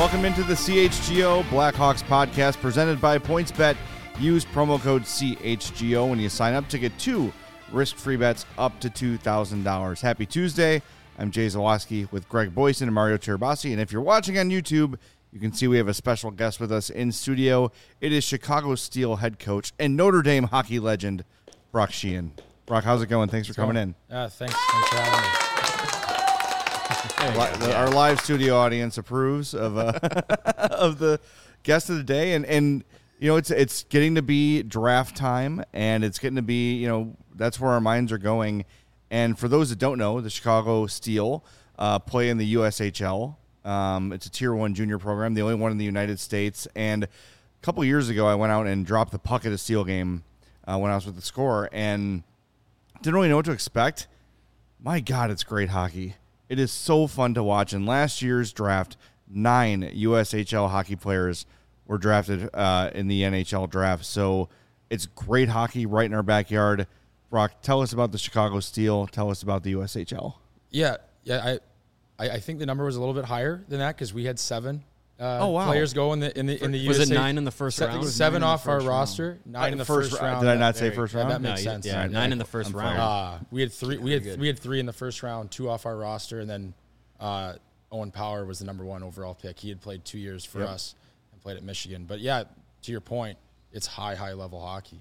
Welcome into the CHGO Blackhawks podcast presented by PointsBet. Use promo code CHGO when you sign up to get 2 risk-free bets up to $2,000. Happy Tuesday. I'm Jay Zawaski with Greg Boyson and Mario Tirabassi. And if you're watching on YouTube, you can see we have a special guest with us in studio. It is Chicago Steel head coach and Notre Dame hockey legend, Brock Sheehan. Brock, how's it going? Thanks for coming in. Thanks for having me. Our live studio audience approves of of the guest of the day, and you know it's getting to be draft time, and it's getting to be that's where our minds are going. And for those that don't know, the Chicago Steel play in the USHL. It's a Tier 1 junior program, the only one in the United States. And a couple of years ago, I went out and dropped the puck at a Steel game when I was with the Score, and didn't really know what to expect. My God, it's great hockey. It is so fun to watch. In last year's draft, 9 USHL hockey players were drafted in the NHL draft. So it's great hockey right in our backyard. Brock, tell us about the Chicago Steel. Tell us about the USHL. Yeah. I think the number was a little bit higher than that because we had 7 wow. players go in the Was USA. it 9 in the first round? 7 off our roster. 9 in the first round. Did I not say first round? That makes sense. Yeah, 9 in the first round. We had 3. We had 3 in the first round, 2 off our roster, and then Owen Power was the number 1 overall pick. He had played 2 years for us and played at Michigan. But yeah, to your point, it's high level hockey.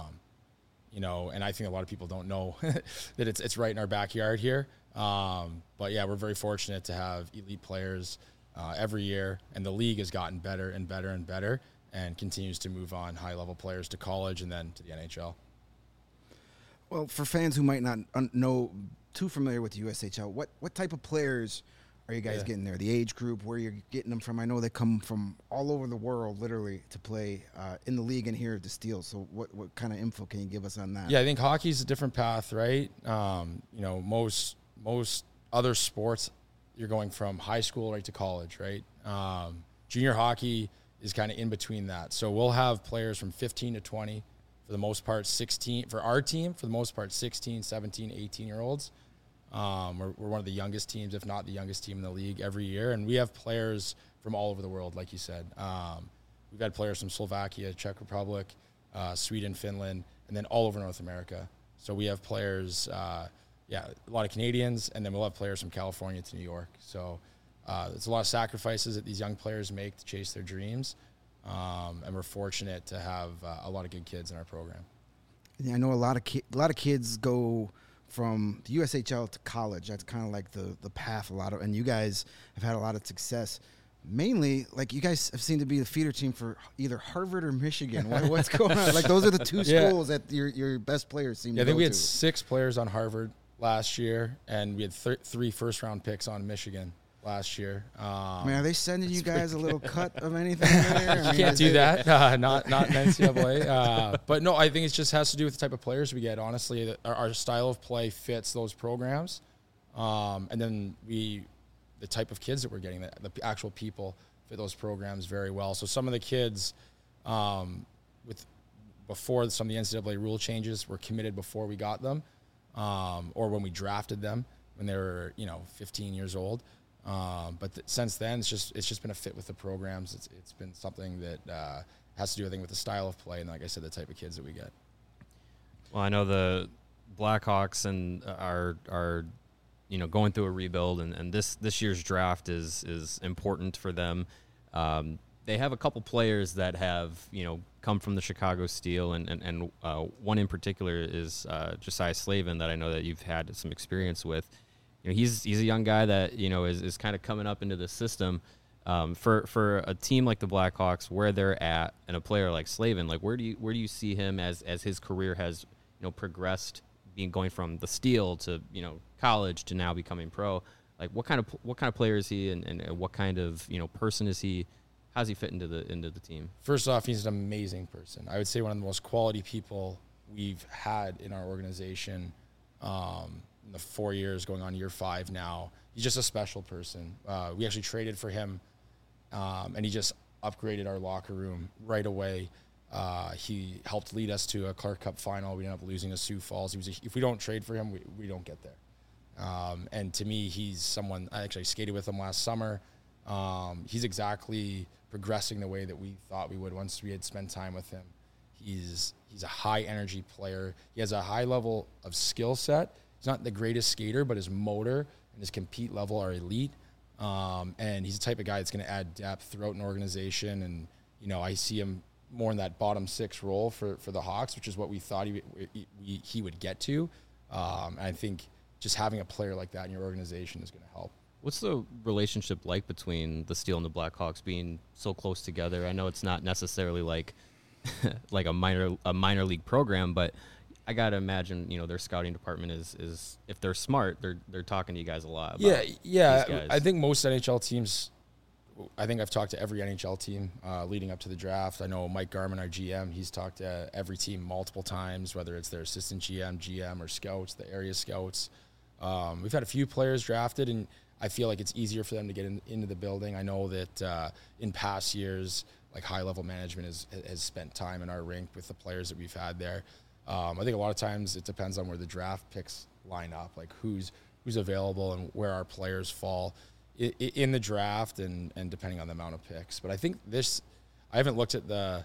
And I think a lot of people don't know that it's right in our backyard here. But yeah, we're very fortunate to have elite players every year, and the league has gotten better and better and better and continues to move on high-level players to college and then to the NHL. Well, for fans who might not know too familiar with the USHL, what type of players are you guys getting there? The age group, where you're getting them from? I know they come from all over the world, literally, to play in the league and here at the Steel. So what kind of info can you give us on that? Yeah, I think hockey's a different path, right? Most other sports, you're going from high school right to college, right? Junior hockey is kind of in between that. So we'll have players from 15 to 20, for the most part 16, for our team, for the most part 16, 17, 18-year-olds. We're one of the youngest teams, if not the youngest team in the league every year. And we have players from all over the world, like you said. We've had players from Slovakia, Czech Republic, Sweden, Finland, and then all over North America. So we have players, a lot of Canadians, and then we'll have players from California to New York. So there's a lot of sacrifices that these young players make to chase their dreams. And we're fortunate to have a lot of good kids in our program. Yeah, I know a lot of kids go from the USHL to college. That's kind of like the path and you guys have had a lot of success. Mainly, like, you guys have seemed to be the feeder team for either Harvard or Michigan. What's going on? Like, those are the 2 schools that your best players seem to go to. I think we had 6 players on Harvard last year, and we had 3 first-round picks on Michigan last year. Are they sending you guys a little cut of anything there? You can't do that. Not in NCAA. But no, I think it just has to do with the type of players we get. Honestly, our style of play fits those programs, and then the type of kids that we're getting, the actual people fit those programs very well. So some of the kids, before some of the NCAA rule changes, were committed before we got them, or when we drafted them when they were 15 years old. But since then, it's just been a fit with the programs. It's been something that has to do, I think, with the style of play and, like I said, the type of kids that we get. Well, I know the Blackhawks and are going through a rebuild, and this year's draft is important for them. They have a couple players that have come from the Chicago Steel, and one in particular is Josiah Slavin, that I know that you've had some experience with. He's a young guy that is kind of coming up into the system. For a team like the Blackhawks, where they're at, and a player like Slavin, like where do you see him as his career has progressed, going from the Steel to college to now becoming pro? Like what kind of player is he, and what kind of person is he? How does he fit into the team? First off, he's an amazing person. I would say one of the most quality people we've had in our organization. In the 4 years, going on year 5 now. He's just a special person. We actually traded for him, and he just upgraded our locker room right away. He helped lead us to a Clark Cup final. We ended up losing to Sioux Falls. If we don't trade for him, we don't get there. And to me, he's someone, I actually skated with him last summer. He's exactly progressing the way that we thought we would once we had spent time with him. He's a high energy player. He has a high level of skill set. He's not the greatest skater, but his motor and his compete level are elite. And he's the type of guy that's going to add depth throughout an organization. And, I see him more in that bottom six role for the Hawks, which is what we thought he would get to. And I think just having a player like that in your organization is going to help. What's the relationship like between the Steel and the Blackhawks being so close together? I know it's not necessarily like like a minor league program, but I gotta imagine their scouting department is if they're smart, they're talking to you guys a lot. About Yeah. I think most NHL teams. I think I've talked to every NHL team leading up to the draft. I know Mike Garman, our GM, he's talked to every team multiple times, whether it's their assistant GM, or scouts, the area scouts. We've had a few players drafted, and I feel like it's easier for them to get into the building. I know that in past years, like high-level management has spent time in our rink with the players that we've had there. I think a lot of times it depends on where the draft picks line up, like who's available and where our players fall in the draft and depending on the amount of picks. But I think I haven't looked at the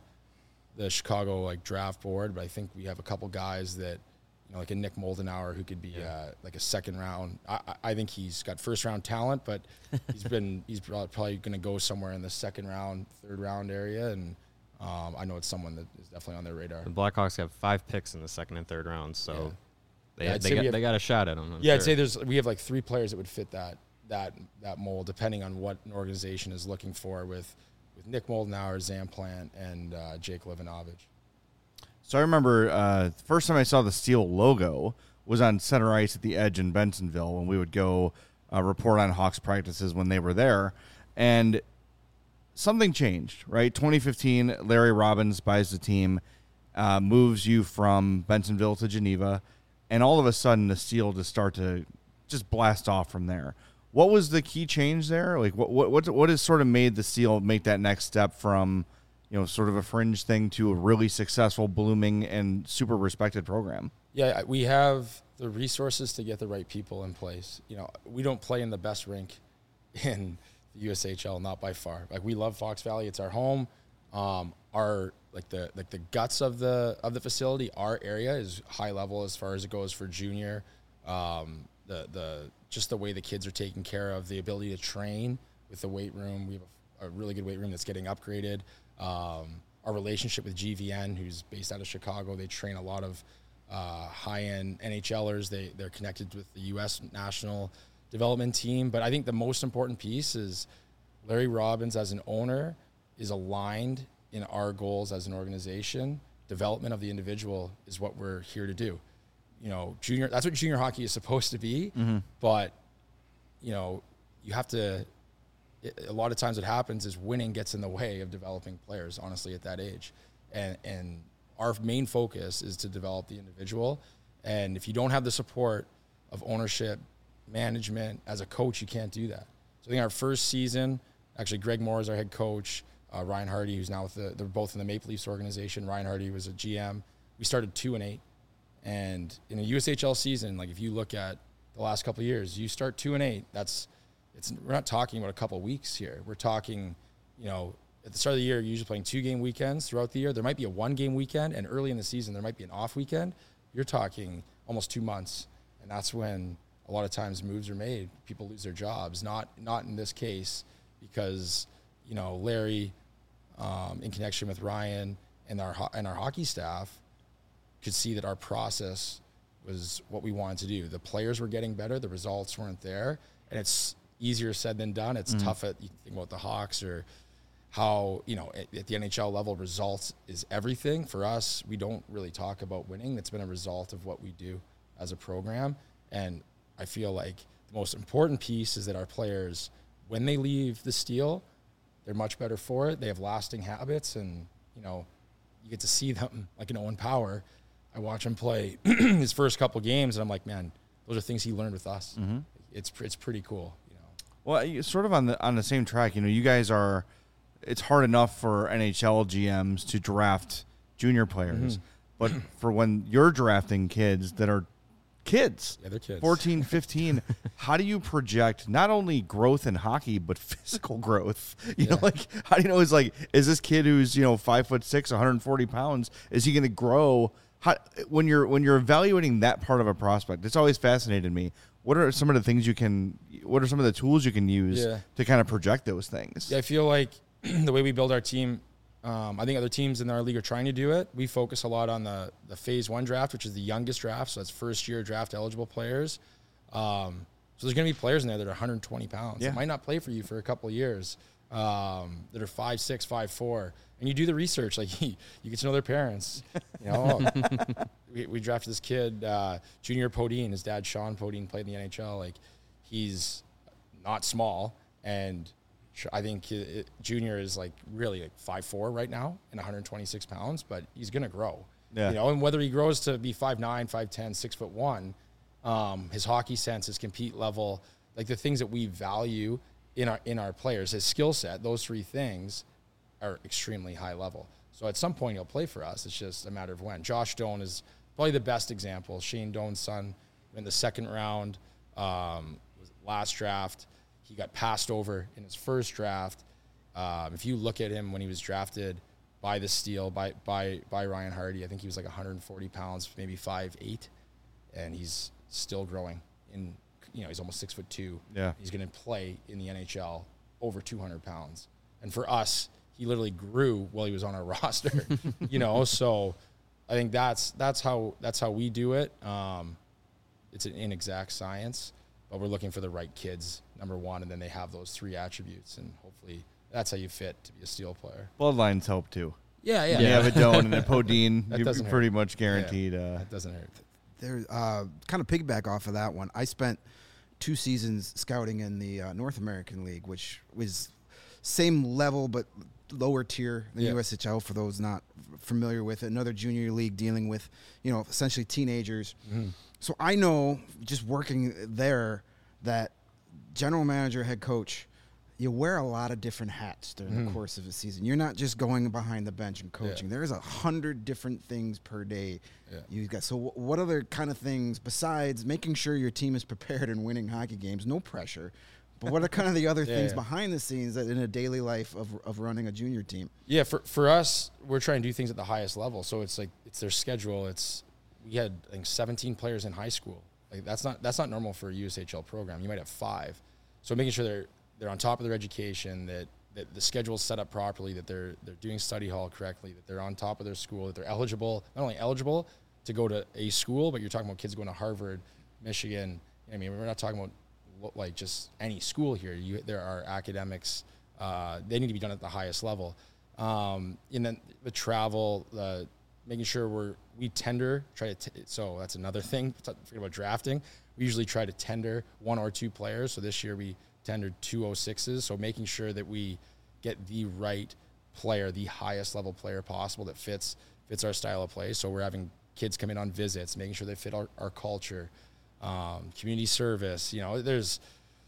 Chicago draft board, but I think we have a couple guys that, like a Nick Moldenauer who could be like a second round. I think he's got first round talent, but he's probably going to go somewhere in the second round, third round area. And I know it's someone that is definitely on their radar. The Blackhawks have 5 picks in the second and third rounds, so they got a shot at them. I'd say we have like 3 players that would fit that mold, depending on what an organization is looking for with Nick Moldenauer, Zamplant, and Jake Livanovich. So I remember the first time I saw the Steel logo was on center ice at the Edge in Bensenville when we would go report on Hawks practices when they were there. And something changed, right? 2015, Larry Robbins buys the team, moves you from Bensenville to Geneva, and all of a sudden the Steel just start to just blast off from there. What was the key change there? Like what has sort of made the Steel make that next step from sort of a fringe thing to a really successful, blooming, and super respected program? Yeah, we have the resources to get the right people in place. We don't play in the best rink in the USHL, not by far. Like, we love Fox Valley; it's our home. Our the guts of the facility, our area is high level as far as it goes for junior. Just the way the kids are taken care of, the ability to train with the weight room. We have a really good weight room that's getting upgraded. Our relationship with GVN, who's based out of Chicago, they train a lot of high-end NHLers. They're connected with the U.S. national development team. But I think the most important piece is Larry Robbins as an owner is aligned in our goals as an organization. Development of the individual is what we're here to do. Junior, that's what junior hockey is supposed to be. Mm-hmm. But, you have to, a lot of times what happens is winning gets in the way of developing players, honestly, at that age. And our main focus is to develop the individual. And if you don't have the support of ownership, management, as a coach, you can't do that. So I think our first season, actually Greg Moore is our head coach, Ryan Hardy, who's now with they're both in the Maple Leafs organization. Ryan Hardy was a GM. We started 2-8. And in a USHL season, like if you look at the last couple of years, you start 2-8. We're not talking about a couple of weeks here. We're talking, at the start of the year, you're usually playing 2-game weekends throughout the year. There might be a 1-game weekend, and early in the season, there might be an off weekend. You're talking almost 2 months, and that's when a lot of times moves are made. People lose their jobs. Not in this case, because Larry, in connection with Ryan and our hockey staff, could see that our process was what we wanted to do. The players were getting better. The results weren't there. And it's easier said than done. It's tough you think about the Hawks or how, at the NHL level, results is everything. For us, we don't really talk about winning. It's been a result of what we do as a program. And I feel like the most important piece is that our players, when they leave the Steel, they're much better for it. They have lasting habits, and, you get to see them, like an Owen Power. I watch him play his first couple games, and I'm like, man, those are things he learned with us. Mm-hmm. It's pretty cool. Well, sort of on the same track. You guys are. It's hard enough for NHL GMs to draft junior players, but for when you're drafting kids that are kids. Yeah, they're kids. 14, 15. How do you project not only growth in hockey, but physical growth? You know, like, how do you know, is this kid who's, 5'6", 140 pounds, is he going to grow? When you're evaluating that part of a prospect, it's always fascinated me. What are some of the things what are some of the tools you can use to kind of project those things? Yeah, I feel like the way we build our team, I think other teams in our league are trying to do it. We focus a lot on the phase 1 draft, which is the youngest draft. So that's first year draft eligible players. So there's going to be players in there that are 120 pounds. Yeah. That might not play for you for a couple of years. That are 5'6", 5'4", and you do the research. Like you get to know their parents. We drafted this kid, Junior Podine. His dad, Sean Podine, played in the NHL. Like, he's not small, and I think Junior is really 5'4" right now and 126 pounds, but he's gonna grow. Yeah. And whether he grows to be 5'9", 5'10", 6'1", his hockey sense, his compete level, like the things that we value in our players, his skill set, those 3 things are extremely high level. So at some point he'll play for us. It's just a matter of when. Josh Doan is probably the best example. Shane Doan's son in the second round, last draft. He got passed over in his first draft. If you look at him when he was drafted by the Steel, by Ryan Hardy, I think he was 140 pounds, maybe 5'8", and he's still growing. He's almost 6'2". Yeah. He's going to play in the NHL over 200 pounds. And for us, he literally grew while he was on our roster. So I think that's how we do it. It's an inexact science, but we're looking for the right kids, number one, and then they have those 3 attributes, and hopefully that's how you fit to be a Steel player. Bloodlines help too. Yeah. You have a Doan and a Podine, you're doesn't pretty hurt. much guaranteed. That doesn't hurt. There, kind of piggyback off of that one. I spent 2 seasons scouting in the North American League, which was same level but lower tier than USHL. For those not familiar with it, another junior league dealing with essentially teenagers. Mm-hmm. So I know, just working there, that general manager, head coach, you wear a lot of different hats during the course of a season. You're not just going behind the bench and coaching. There's 100 different things per day. You got. So what other kind of things besides making sure your team is prepared and winning hockey games? No pressure. But what are kind of the other things behind the scenes that in a daily life of running a junior team? Yeah, for us, we're trying to do things at the highest level. So it's their schedule. We had 17 players in high school. That's not normal for a USHL program. You might have 5. So making sure they're on top of their education, that the schedule is set up properly, that they're doing study hall correctly, that they're on top of their school, that they're eligible, not only eligible to go to a school, but you're talking about kids going to Harvard, Michigan. I mean, we're not talking about just any school here. There are academics. They need to be done at the highest level. And then the travel, making sure we tender, so that's another thing. Forget about drafting. We usually try to tender 1 or 2 players. So this year we tendered 2 06s. So making sure that we get the right player, the highest level player possible that fits our style of play. So we're having kids come in on visits, making sure they fit our culture, community service. There's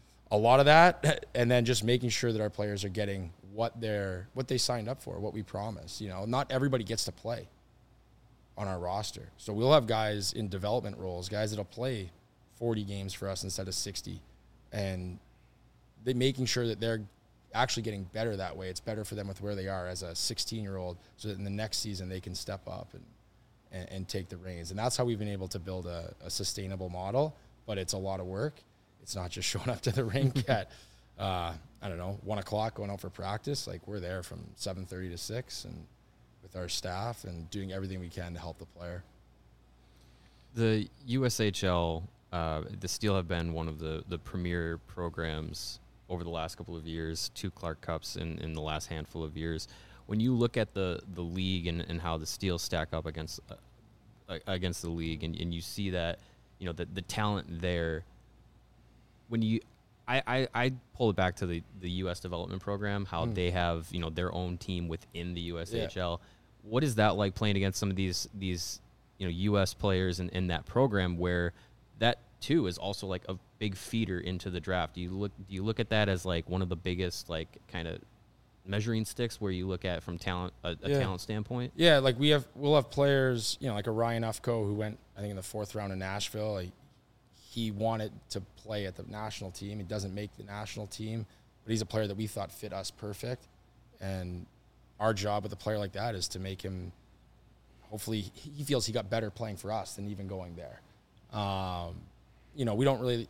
a lot of that, and then just making sure that our players are getting what they signed up for, what we promised. Not everybody gets to play on our roster. So we'll have guys in development roles, guys that'll play 40 games for us instead of 60, and they making sure that they're actually getting better that way. It's better for them with where they are as a 16-year-old, so that in the next season they can step up and take the reins. And that's how we've been able to build a sustainable model, but it's a lot of work. It's not just showing up to the rink at, 1 o'clock going out for practice. We're there from 7:30 to 6 and with our staff and doing everything we can to help the player. The USHL, the Steel have been one of the premier programs over the last couple of years, 2 Clark Cups in the last handful of years. When you look at the league and how the Steel stack up against the league, and you see that, the talent there, I pull it back to the U.S. development program, how they have, their own team within the USHL. Yeah. What is that like playing against some of these U.S. players in that program, where that too is also a big feeder into the draft? Do you look at that as one of the biggest kind of measuring sticks where you look at from talent talent standpoint? Yeah, we'll have players, like a Ryan Ufko who went, I think, in the 4th round in Nashville. he wanted to play at the national team. He doesn't make the national team, but he's a player that we thought fit us perfect. And our job with a player like that is to make him, hopefully he feels he got better playing for us than even going there. You know, we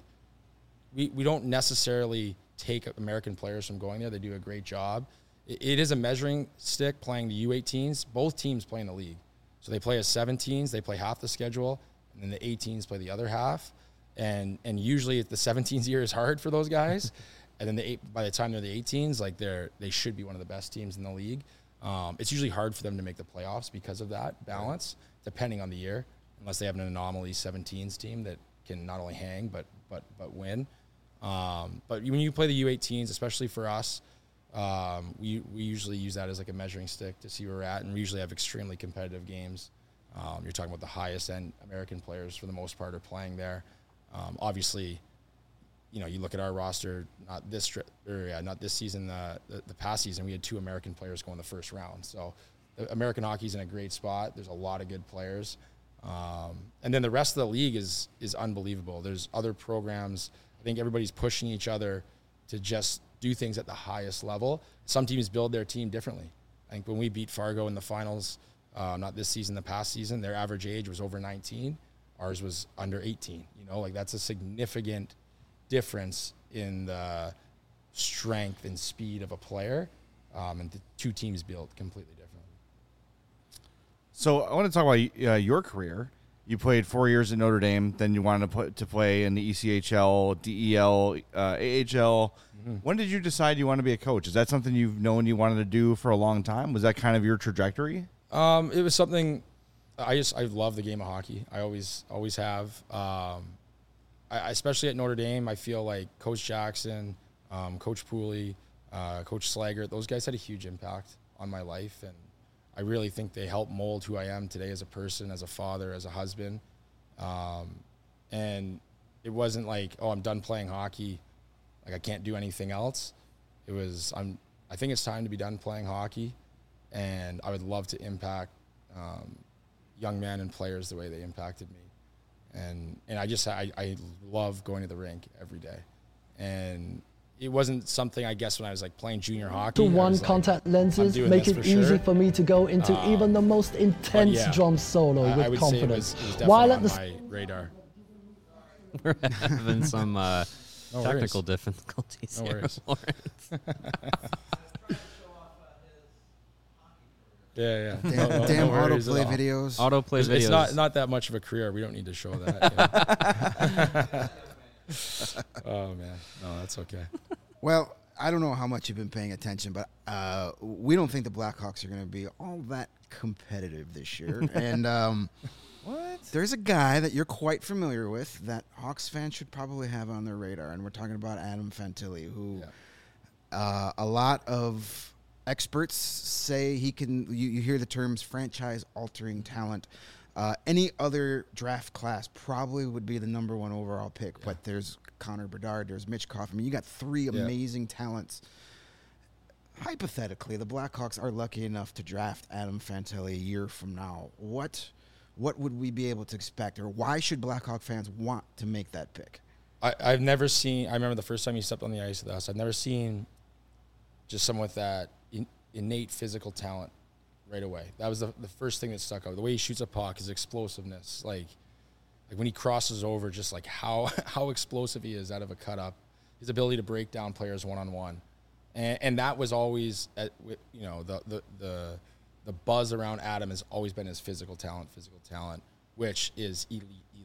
don't necessarily take American players from going there. They do a great job. It is a measuring stick playing the U18s. Both teams play in the league. So they play as 17s, they play half the schedule, and then the 18s play the other half. And usually the 17s year is hard for those guys. And then by the time they're the 18s, like they should be one of the best teams in the league. It's usually hard for them to make the playoffs because of that balance, depending on the year, unless they have an anomaly 17s team that can not only hang but win. But when you play the U18s, especially for us, we usually use that as like a measuring stick to see where we're at, and we usually have extremely competitive games. You're talking about the highest end American players for the most part are playing there. Obviously, you know, you look at our roster, not this season, the past season, we had 2 American players go in the first round. So American hockey's in a great spot. There's a lot of good players. And then the rest of the league is unbelievable. There's other programs. I think everybody's pushing each other to just do things at the highest level. Some teams build their team differently. I think when we beat Fargo in the finals, not this season, the past season, their average age was over 19. Ours was under 18. You know, like that's a significant difference in the strength and speed of a player. And the 2 teams built completely differently. So I want to talk about your career. You played 4 years at Notre Dame, then you wanted to play in the ECHL, DEL, AHL. Mm-hmm. When did you decide you want to be a coach? Is that something you've known you wanted to do for a long time? Was that kind of your trajectory? It was something I love the game of hockey. I always have. I especially at Notre Dame, I feel like Coach Jackson, Coach Pooley, Coach Slaggert, those guys had a huge impact on my life, and I really think they helped mold who I am today as a person, as a father, as a husband. And it wasn't like, oh, I'm done playing hockey, like I can't do anything else. It was, I think it's time to be done playing hockey, and I would love to impact young men and players the way they impacted me. And I love going to the rink every day. And it wasn't something, I guess, when I was like playing junior hockey. One contact lenses make it easy for me to go into even the most intense drum solo with confidence. It was definitely on my radar. We're having some technical difficulties here. Yeah. Damn autoplay videos. Autoplay videos. It's not that much of a career. We don't need to show that. Oh, man. No, that's okay. Well, I don't know how much you've been paying attention, but we don't think the Blackhawks are going to be all that competitive this year. And What? there's a guy that you're quite familiar with that Hawks fans should probably have on their radar, and we're talking about Adam Fantilli, who a lot of experts say he can. You hear the terms franchise-altering talent. Any other draft class probably would be the number 1 overall pick, but there's Connor Bedard, there's Mitch Koff. I mean, you got 3 amazing talents. Hypothetically, the Blackhawks are lucky enough to draft Adam Fantilli a year from now. What would we be able to expect, or why should Blackhawk fans want to make that pick? I've never seen, I remember the first time he stepped on the ice with us, I've never seen just someone with that innate physical talent right away. That was the first thing that stuck out. The way he shoots a puck, his explosiveness, like when he crosses over, just like how explosive he is out of a cut up, his ability to break down players one-on-one. And that was always, the buzz around Adam has always been his physical talent, which is elite.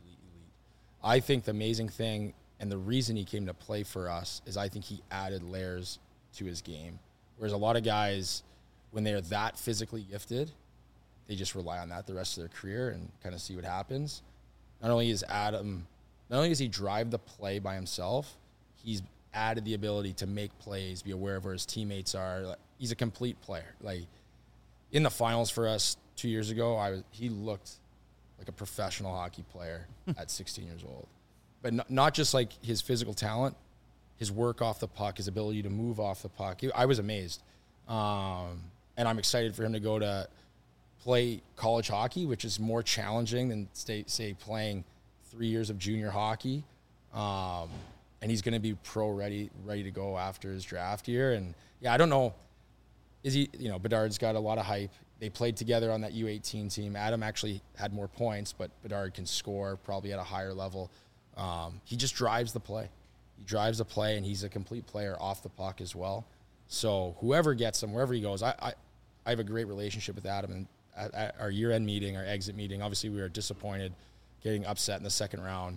I think the amazing thing and the reason he came to play for us is I think he added layers to his game. Whereas a lot of guys, when they're that physically gifted, they just rely on that the rest of their career and kind of see what happens. Not only does he drive the play by himself, he's added the ability to make plays, be aware of where his teammates are. Like, he's a complete player. Like in the finals for us 2 years ago, he looked like a professional hockey player at 16 years old. But not just like his physical talent, his work off the puck, his ability to move off the puck. I was amazed. And I'm excited for him to go to play college hockey, which is more challenging than, say, playing 3 years of junior hockey. and he's going to be pro ready to go after his draft year. And I don't know. Is he, Bedard's got a lot of hype. They played together on that U18 team. Adam actually had more points, but Bedard can score probably at a higher level. He just drives the play. He drives the play, and he's a complete player off the puck as well. So whoever gets him, wherever he goes, I have a great relationship with Adam. And at our year-end meeting, our exit meeting, obviously we were disappointed getting upset in the second round.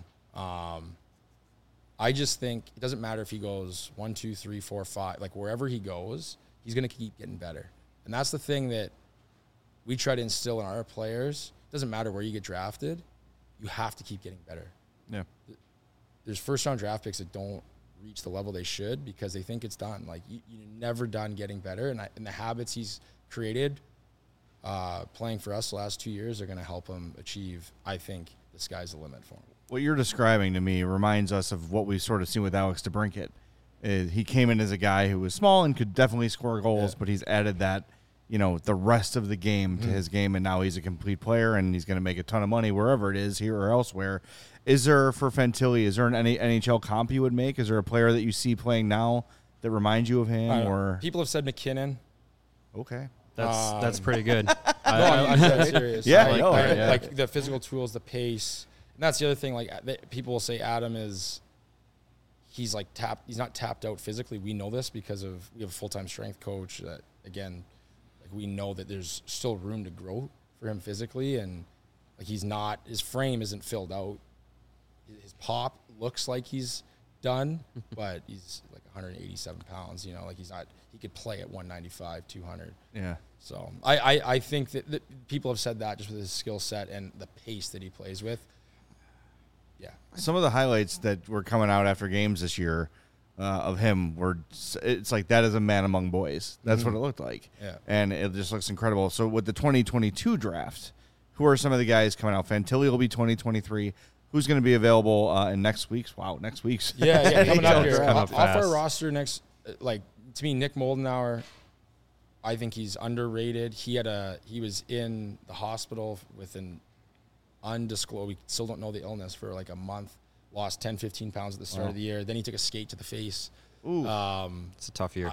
I just think it doesn't matter if he goes 1, 2, 3, 4, 5. Like, wherever he goes, he's going to keep getting better. And that's the thing that we try to instill in our players. It doesn't matter where you get drafted. You have to keep getting better. Yeah. There's first-round draft picks that don't reach the level they should because they think it's done. Like, you're never done getting better. And the habits he's created playing for us the last 2 years are going to help him achieve, I think, the sky's the limit for him. What you're describing to me reminds us of what we've sort of seen with Alex DeBrincat. He came in as a guy who was small and could definitely score goals, but he's added that, the rest of the game to his game, and now he's a complete player, and he's going to make a ton of money wherever it is, here or elsewhere. Is there, for Fantilli, is there an NHL comp you would make? Is there a player that you see playing now that reminds you of him? Or people have said McKinnon. Okay. That's pretty good. I'm dead serious. Yeah, like the physical tools, the pace. And that's the other thing. Like, people will say Adam he's not tapped out physically. We know this because we have a full-time strength coach that, again, like, we know that there's still room to grow for him physically. And like, his frame isn't filled out. His pop looks like he's done, but he's like 187 pounds, like he could play at 195, 200. Yeah. So I think that people have said that just with his skill set and the pace that he plays with. Yeah. Some of the highlights that were coming out after games this year of him it's like, that is a man among boys. That's what it looked like. Yeah. And it just looks incredible. So with the 2022 draft, who are some of the guys coming out? Fantilli will be 2023. Who's going to be available in next week's? Wow, next week's. Yeah, coming up here. Off our roster next, to me, Nick Moldenauer, I think he's underrated. He was in the hospital with an undisclosed, we still don't know the illness, for like a month, lost 10, 15 pounds at the start of the year. Then he took a skate to the face. Ooh. It's a tough year.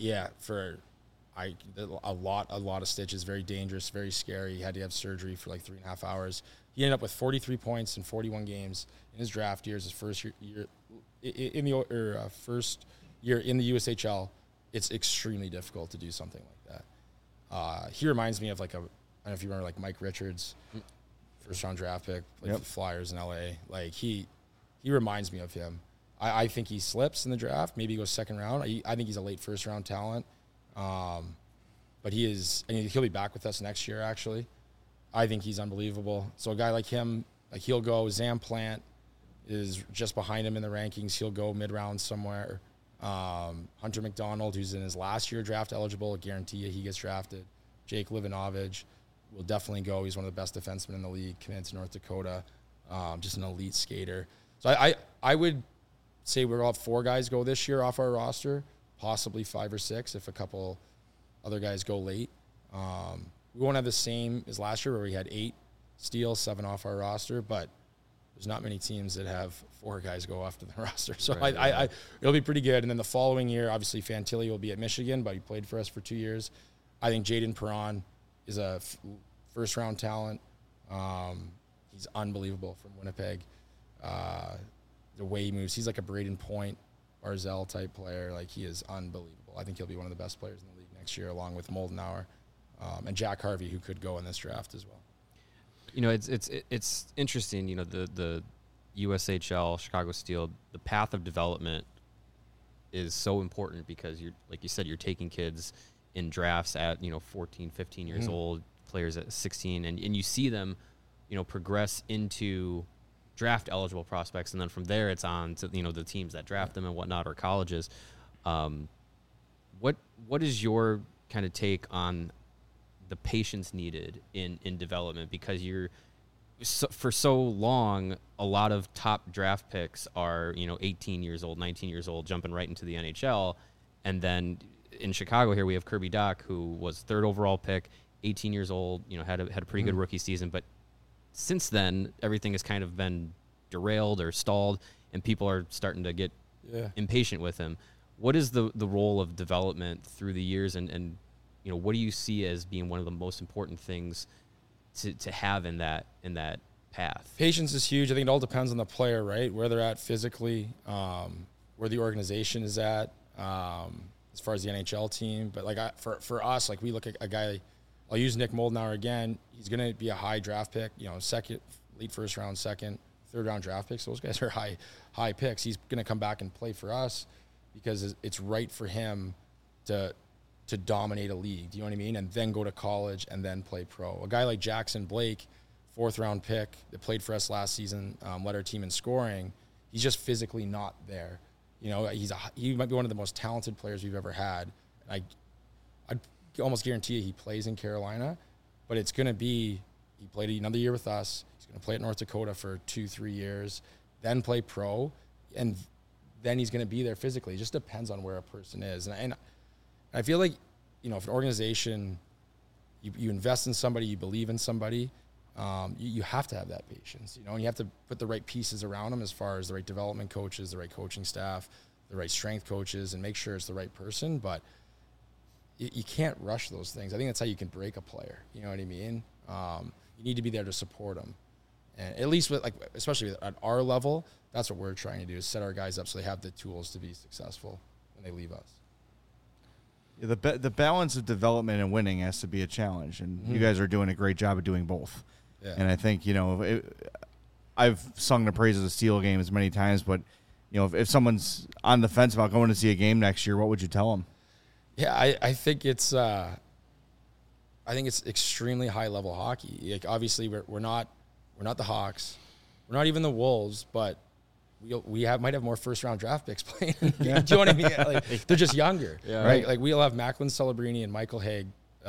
A lot of stitches, very dangerous, very scary. He had to have surgery for like 3.5 hours. He ended up with 43 points in 41 games in his draft years, his first year in the first year in the USHL. It's extremely difficult to do something like that. He reminds me of I don't know if you remember, like Mike Richards, first round draft pick, the Flyers in LA. Like, he reminds me of him. I think he slips in the draft. Maybe he goes second round. I think he's a late first round talent. But he is, and he'll be back with us next year, actually. I think he's unbelievable. So a guy like him, he'll go. Zam Plant is just behind him in the rankings. He'll go mid-round somewhere. Hunter McDonald, who's in his last year draft eligible, I guarantee you he gets drafted. Jake Livanovich will definitely go. He's one of the best defensemen in the league, committed to North Dakota. Just an elite skater. So I would say we'll have 4 guys go this year off our roster, possibly 5 or 6 if a couple other guys go late. We won't have the same as last year where we had 8 steals, 7 off our roster, but there's not many teams that have 4 guys go off to the roster. So it'll be pretty good. And then the following year, obviously Fantilli will be at Michigan, but he played for us for 2 years. I think Jaden Perron is a first-round talent. He's unbelievable from Winnipeg. The way he moves, he's like a Braden Point, Barzell type player. Like, he is unbelievable. I think he'll be one of the best players in the league next year, along with Moldenauer. And Jack Harvey, who could go in this draft as well. It's interesting. The USHL, Chicago Steel, the path of development is so important because like you said, you're taking kids in drafts at 14, 15 years old, players at 16, and you see them, progress into draft eligible prospects, and then from there it's on to the teams that draft them and whatnot, or colleges. What is your kind of take on the patience needed in development? Because for so long, a lot of top draft picks are 18 years old, 19 years old, jumping right into the NHL, and then in Chicago here we have Kirby Dach, who was 3rd overall pick, 18 years old, had a pretty good rookie season, but since then everything has kind of been derailed or stalled, and people are starting to get impatient with him. What is the role of development through the years, and what do you see as being one of the most important things to have in that path? Patience is huge. I think it all depends on the player, right? Where they're at physically, where the organization is at, as far as the NHL team. But like for us, like we look at a guy, I'll use Nick Moldenauer again. He's going to be a high draft pick, second, late first round, second, third round draft picks. Those guys are high picks. He's going to come back and play for us because it's right for him to dominate a league. Do you know what I mean? And then go to college and then play pro. A guy like Jackson Blake, 4th round pick that played for us last season, led our team in scoring. He's just physically not there. He might be one of the most talented players we've ever had. I'd almost guarantee you he plays in Carolina, but it's going to be, he played another year with us. He's going to play at North Dakota for 2-3 years, then play pro, and then he's going to be there physically. It just depends on where a person is. And I feel like, if an organization, you invest in somebody, you believe in somebody, you have to have that patience, and you have to put the right pieces around them as far as the right development coaches, the right coaching staff, the right strength coaches, and make sure it's the right person. But you can't rush those things. I think that's how you can break a player. You know what I mean? You need to be there to support them. And at least especially at our level, that's what we're trying to do, is set our guys up so they have the tools to be successful when they leave us. Yeah, the balance of development and winning has to be a challenge, and you guys are doing a great job of doing both. Yeah. And I think, I've sung the praises of Steel games many times, but, if someone's on the fence about going to see a game next year, what would you tell them? Yeah, I think it's extremely high level hockey. Like, obviously we're not the Hawks, we're not even the Wolves, but we might have more first round draft picks playing. Do you know what I mean? Like, they're just younger, right? Like, we'll have Macklin Celebrini and Michael Haig,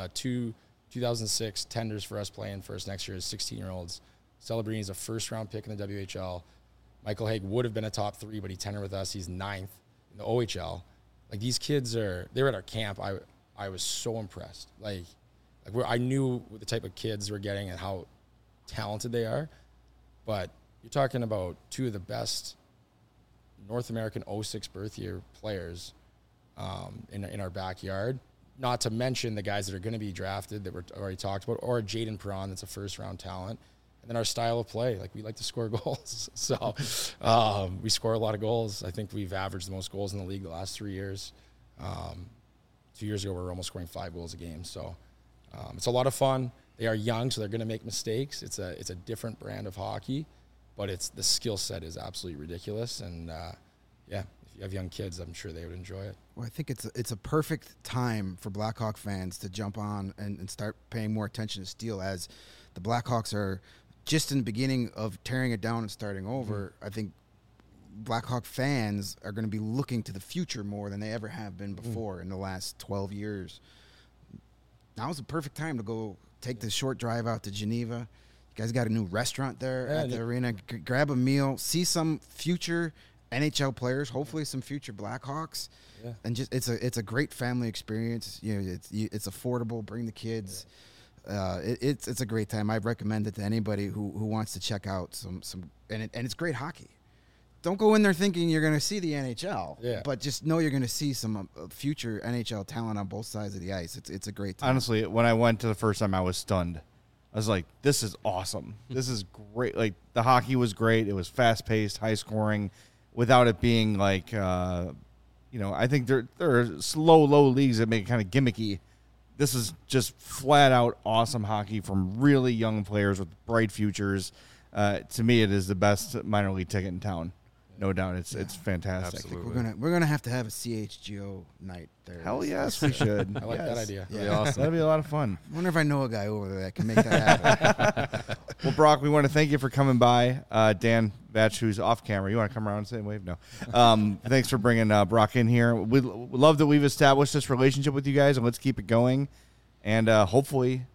2006 tenders for us playing first next year as 16-year-olds. Celebrini is a first round pick in the WHL. Michael Haig would have been a top 3, but he tendered with us. He's 9th in the OHL. Like, these kids they were at our camp. I was so impressed. Like I knew the type of kids we're getting and how talented they are. But you're talking about 2 of the best North American 06 birth year players in our backyard. Not to mention the guys that are going to be drafted that we're already talked about, or Jaden Perron, that's a first-round talent. And then our style of play, like, we like to score goals. So we score a lot of goals. I think we've averaged the most goals in the league the last 3 years. 2 years ago, we were almost scoring 5 goals a game. So it's a lot of fun. They are young, so they're going to make mistakes. It's a different brand of hockey, but the skill set is absolutely ridiculous. And, if you have young kids, I'm sure they would enjoy it. Well, I think it's a perfect time for Blackhawk fans to jump on and start paying more attention to Steel, as the Blackhawks are just in the beginning of tearing it down and starting over. I think Blackhawk fans are going to be looking to the future more than they ever have been before in the last 12 years. Now's the perfect time to go take the short drive out to Geneva. You guys got a new restaurant there at the arena. Grab a meal, see some future NHL players, hopefully some future Blackhawks, and just it's a great family experience. It's affordable. Bring the kids. It's a great time. I'd recommend it to anybody who wants to check out some and it's great hockey. Don't go in there thinking you're going to see the NHL, but just know you're going to see some future NHL talent on both sides of the ice. It's a great time. Honestly, when I went to the first time, I was stunned. I was like, this is awesome. This is great. Like, the hockey was great. It was fast-paced, high-scoring, without it being like, I think there are low leagues that make it kind of gimmicky. This is just flat-out awesome hockey from really young players with bright futures. To me, it is the best minor league ticket in town. No doubt, it's fantastic. Absolutely. I think we're gonna have to have a CHGO night there. Hell yes, we should. I like that idea. That'd be awesome. That'd be a lot of fun. I wonder if I know a guy over there that can make that happen. Well, Brock, we want to thank you for coming by. Dan Batch, who's off camera, you want to come around and say wave? No. Thanks for bringing Brock in here. We love that we've established this relationship with you guys, and let's keep it going. And hopefully,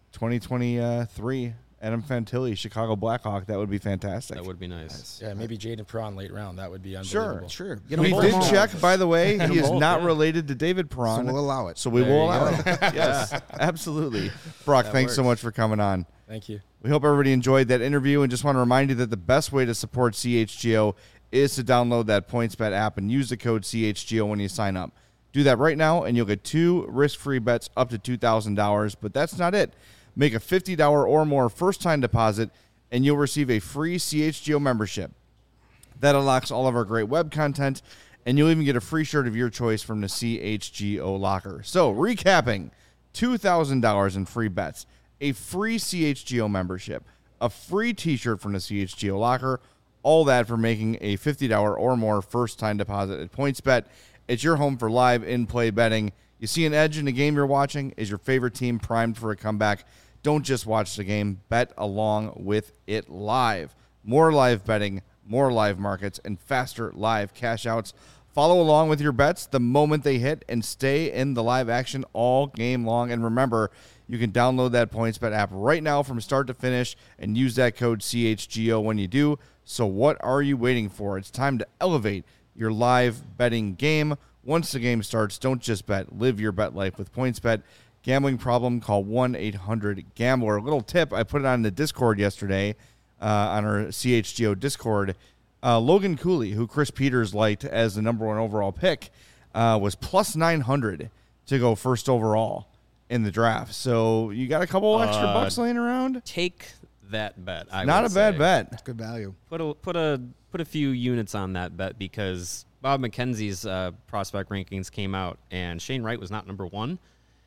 2023. Adam Fantilli, Chicago Blackhawk. That would be fantastic. That would be nice. Yeah, maybe Jaden Perron late round. That would be unbelievable. Sure. We did check, by the way. He is not related to David Perron. So we'll allow it. So we will allow it. Yes, absolutely. Brock, thanks so much for coming on. Thank you. We hope everybody enjoyed that interview, and just want to remind you that the best way to support CHGO is to download that PointsBet app and use the code CHGO when you sign up. Do that right now, and you'll get 2 risk-free bets up to $2,000. But that's not it. Make a $50 or more first-time deposit, and you'll receive a free CHGO membership. That unlocks all of our great web content, and you'll even get a free shirt of your choice from the CHGO locker. So, recapping, $2,000 in free bets, a free CHGO membership, a free t-shirt from the CHGO locker, all that for making a $50 or more first-time deposit at PointsBet. It's your home for live in-play betting. You see an edge in the game you're watching? Is your favorite team primed for a comeback? Don't just watch the game. Bet along with it live. More live betting, more live markets, and faster live cash outs. Follow along with your bets the moment they hit and stay in the live action all game long. And remember, you can download that PointsBet app right now from start to finish and use that code CHGO when you do. So what are you waiting for? It's time to elevate your live betting game. Once the game starts, don't just bet. Live your bet life with PointsBet. Gambling problem, call 1-800-GAMBLER. A little tip, I put it on the Discord yesterday on our CHGO Discord. Logan Cooley, who Chris Peters liked as the number 1 overall pick, was plus 900 to go first overall in the draft. So you got a couple extra bucks laying around? Take that bet. Not a bad bet. It's good value. Put a few units on that bet because Bob McKenzie's prospect rankings came out and Shane Wright was not number 1.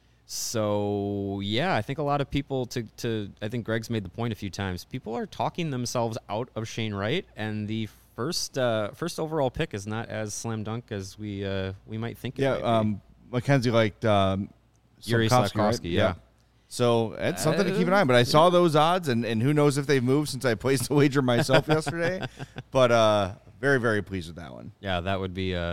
So yeah, I think a lot of people I think Greg's made the point a few times. People are talking themselves out of Shane Wright, and the first overall pick is not as slam dunk as we might think. McKenzie liked Yuri Slafkovsky, right? Yeah. So it's something to keep an eye on. But I saw those odds, and who knows if they've moved since I placed the wager myself yesterday. But very, very pleased with that one. Yeah, that would be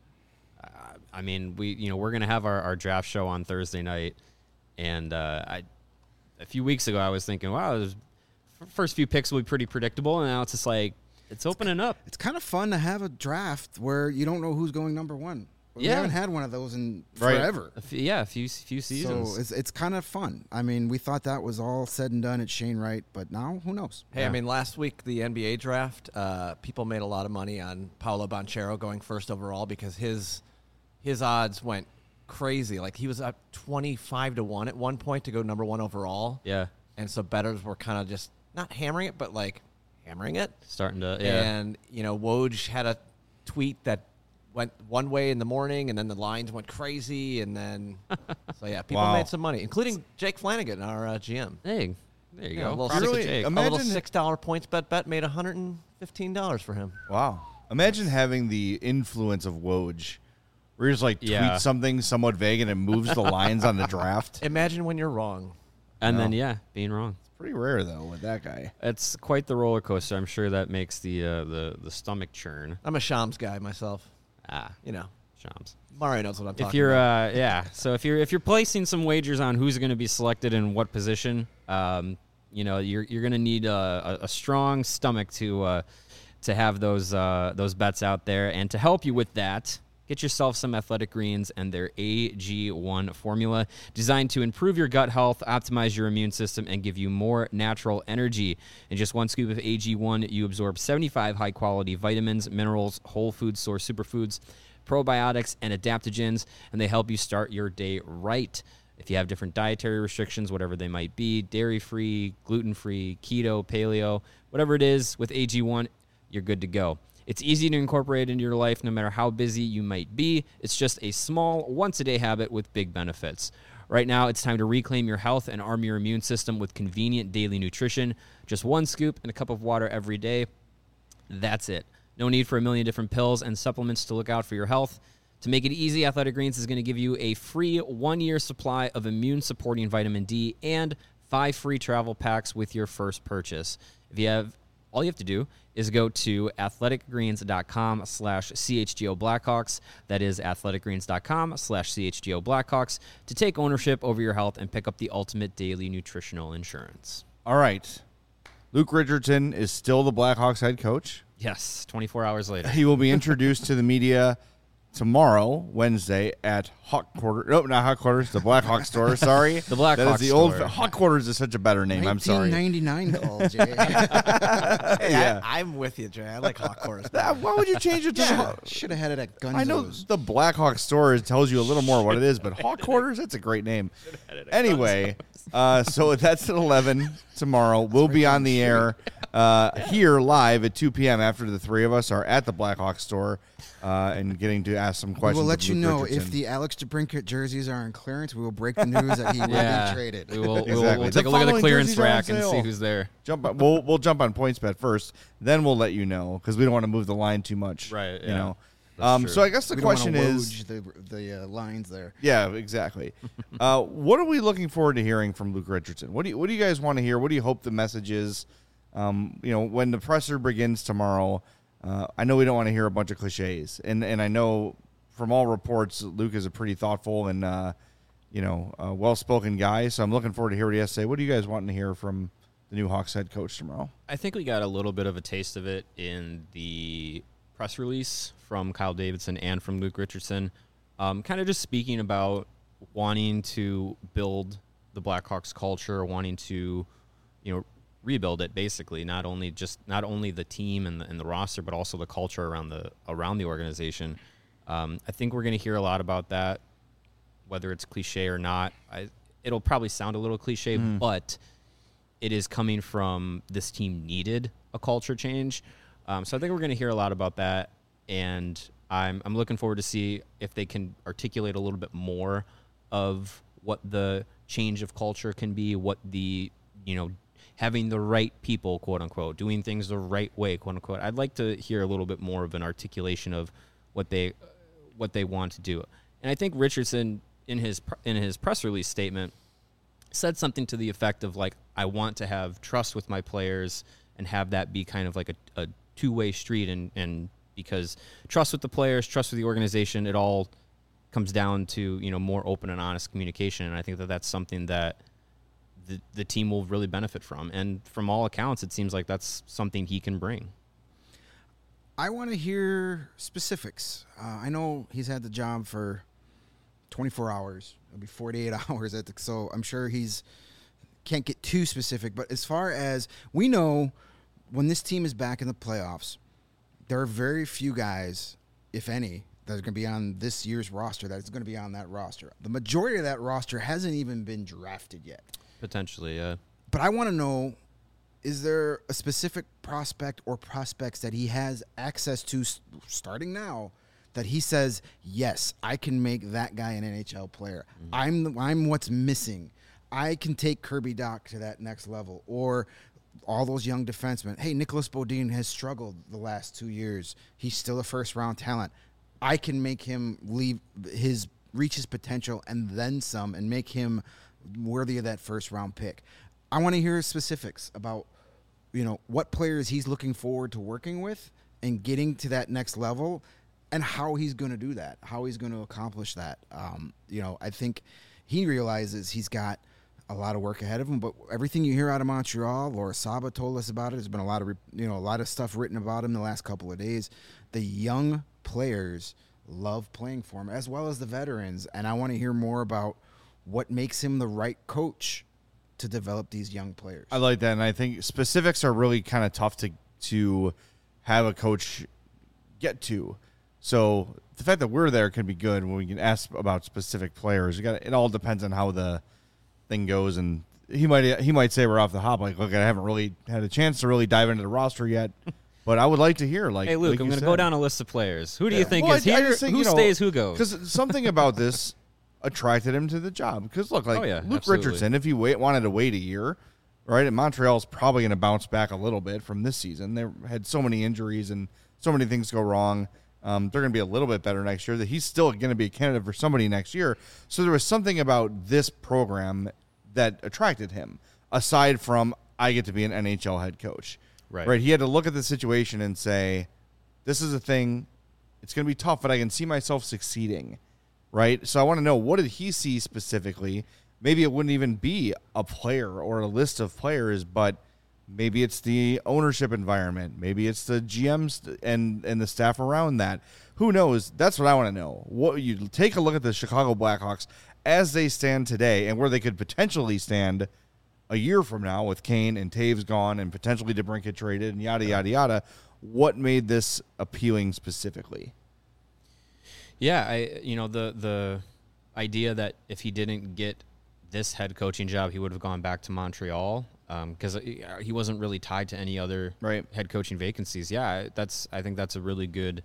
I mean, we're going to have our draft show on Thursday night. And a few weeks ago, I was thinking, wow, the first few picks will be pretty predictable. And now it's just like, it's opening up. It's kind of fun to have a draft where you don't know who's going number 1. We haven't had one of those in forever. A few seasons. So it's kind of fun. I mean, we thought that was all said and done at Shane Wright, but now who knows? Hey, I mean, last week, the NBA draft, people made a lot of money on Paolo Banchero going first overall because his odds went crazy. Like, he was up 25-1 at one point to go number 1 overall. Yeah. And so bettors were kind of just not hammering it, but like hammering it. Starting to, yeah. And, Woj had a tweet that went one way in the morning, and then the lines went crazy, and then so yeah, people made some money, including Jake Flanagan, our GM. Hey, there you go. A little $6 PointsBet bet made $115 for him. Wow! Imagine having the influence of Woj, where you just like tweet something somewhat vague and it moves the lines on the draft. Imagine when you're wrong, and then being wrong. It's pretty rare though with that guy. It's quite the roller coaster. I'm sure that makes the stomach churn. I'm a Shams guy myself. Shams. Mario knows what I'm talking about. So if you're placing some wagers on who's going to be selected in what position, you're going to need a strong stomach to have those bets out there. And to help you with that, get yourself some Athletic Greens and their AG1 formula, designed to improve your gut health, optimize your immune system, and give you more natural energy. In just 1 scoop of AG1, you absorb 75 high-quality vitamins, minerals, whole food source superfoods, probiotics, and adaptogens, and they help you start your day right. If you have different dietary restrictions, whatever they might be, dairy-free, gluten-free, keto, paleo, whatever it is, with AG1, you're good to go. It's easy to incorporate into your life no matter how busy you might be. It's just a small, once-a-day habit with big benefits. Right now, it's time to reclaim your health and arm your immune system with convenient daily nutrition. Just 1 scoop and a cup of water every day. That's it. No need for a million different pills and supplements to look out for your health. To make it easy, Athletic Greens is going to give you a free 1-year supply of immune-supporting vitamin D and 5 free travel packs with your first purchase. All you have to do is go to athleticgreens.com/CHGO Blackhawks. That is athleticgreens.com/CHGO Blackhawks to take ownership over your health and pick up the ultimate daily nutritional insurance. All right. Luke Richardson is still the Blackhawks head coach. Yes, 24 hours later. He will be introduced to the media tomorrow, Wednesday, at Hawk Quarters. No, not Hawk Quarters. The Black Hawk store. Sorry, the Black Hawk store. Old Hawk Quarters is such a better name. I'm sorry. 1999 call, Jay. Hey, I'm with you, Jay. I like Hawk Quarters. Why would you change it to? Should have had it at Gunzo's. I know the Black Hawk store tells you a little more what it is, but Hawk Quarters, that's a great name. Anyway, so that's at 11 tomorrow. We'll be on the air here live at 2 p.m. after the three of us are at the Black Hawk store and getting to ask some questions. We'll let you know Richardson. if the Alex DeBrincat jerseys are on clearance. We will break the news that he will be traded. We'll Exactly. take a The look at the following clearance jerseys are on rack and sale. see who's there. We'll jump on PointsBet first, then we'll let you know because we don't want to move the line too much. Right, You yeah. know. That's true. So I guess the We don't wanna question is, woj the lines there. yeah, exactly. What are we looking forward to hearing from Luke Richardson? What do you guys want to hear? What do you hope the message is? When the presser begins tomorrow, I know we don't want to hear a bunch of cliches, and I know from all reports, Luke is a pretty thoughtful and well-spoken guy. So I'm looking forward to hear what he has to say. What do you guys want to hear from the new Hawks head coach tomorrow? I think we got a little bit of a taste of it in the press release from Kyle Davidson and from Luke Richardson, kind of just speaking about wanting to build the Blackhawks culture, wanting to, rebuild it basically, not only the team and the roster, but also the culture around the organization. I think we're going to hear a lot about that, whether it's cliche or not. It'll probably sound a little cliche, but it is coming from this team needed a culture change. So I think we're going to hear a lot about that, and I'm looking forward to see if they can articulate a little bit more of what the change of culture can be, what the, having the right people, quote unquote, doing things the right way, quote unquote. I'd like to hear a little bit more of an articulation of what they want to do. And I think Richardson in his press release statement said something to the effect of like, I want to have trust with my players and have that be kind of like a two-way street, and because trust with the players, trust with the organization, it all comes down to more open and honest communication, and I think that that's something that the team will really benefit from, and from all accounts, it seems like that's something he can bring. I want to hear specifics. I know he's had the job for 24 hours. It'll be 48 hours so I'm sure can't get too specific, but as far as we know, when this team is back in the playoffs, there are very few guys, if any, that are going to be on this year's roster that is going to be on that roster. The majority of that roster hasn't even been drafted yet. Potentially, yeah. But I want to know, is there a specific prospect or prospects that he has access to starting now that he says, yes, I can make that guy an NHL player. Mm-hmm. I'm what's missing. I can take Kirby Dach to that next level. Or all those young defensemen. Hey, Nicholas Bodin has struggled the last 2 years. He's still a first-round talent. I can make him reach his potential and then some and make him worthy of that first-round pick. I want to hear specifics about, what players he's looking forward to working with and getting to that next level and how he's going to do that, how he's going to accomplish that. I think he realizes he's got a lot of work ahead of him, but everything you hear out of Montreal, Laura Saba told us about it. There's been a lot of stuff written about him the last couple of days. The young players love playing for him, as well as the veterans, and I want to hear more about what makes him the right coach to develop these young players. I like that, and I think specifics are really kind of tough to have a coach get to. So the fact that we're there can be good when we can ask about specific players. It all depends on how the thing goes, and he might say we're off the hop, like, look, I haven't really had a chance to really dive into the roster yet, but I would like to hear, like, hey, Luke, like I'm going to go down a list of players. Who do you think well, is here? Who stays? Who goes? Because something about this attracted him to the job. Because look, like Luke absolutely. Richardson, if he wanted to wait a year, right, and Montreal's probably going to bounce back a little bit from this season. They had so many injuries and so many things go wrong. They're going to be a little bit better next year. That he's still going to be a candidate for somebody next year. So there was something about this program that attracted him, aside from I get to be an NHL head coach. Right. He had to look at the situation and say, this is a thing. It's going to be tough, but I can see myself succeeding. Right. So I want to know, what did he see specifically? Maybe it wouldn't even be a player or a list of players, but Maybe it's the ownership environment. Maybe it's the GMs and the staff around that. Who knows? That's what I want to know. What you take a look at the Chicago Blackhawks as they stand today and where they could potentially stand a year from now with Kane and Taves gone and potentially DeBrincat traded and yada, yada, yada. What made this appealing specifically? Yeah, the idea that if he didn't get this head coaching job, he would have gone back to Montreal because he wasn't really tied to any other head coaching vacancies. Yeah, I think that's a really good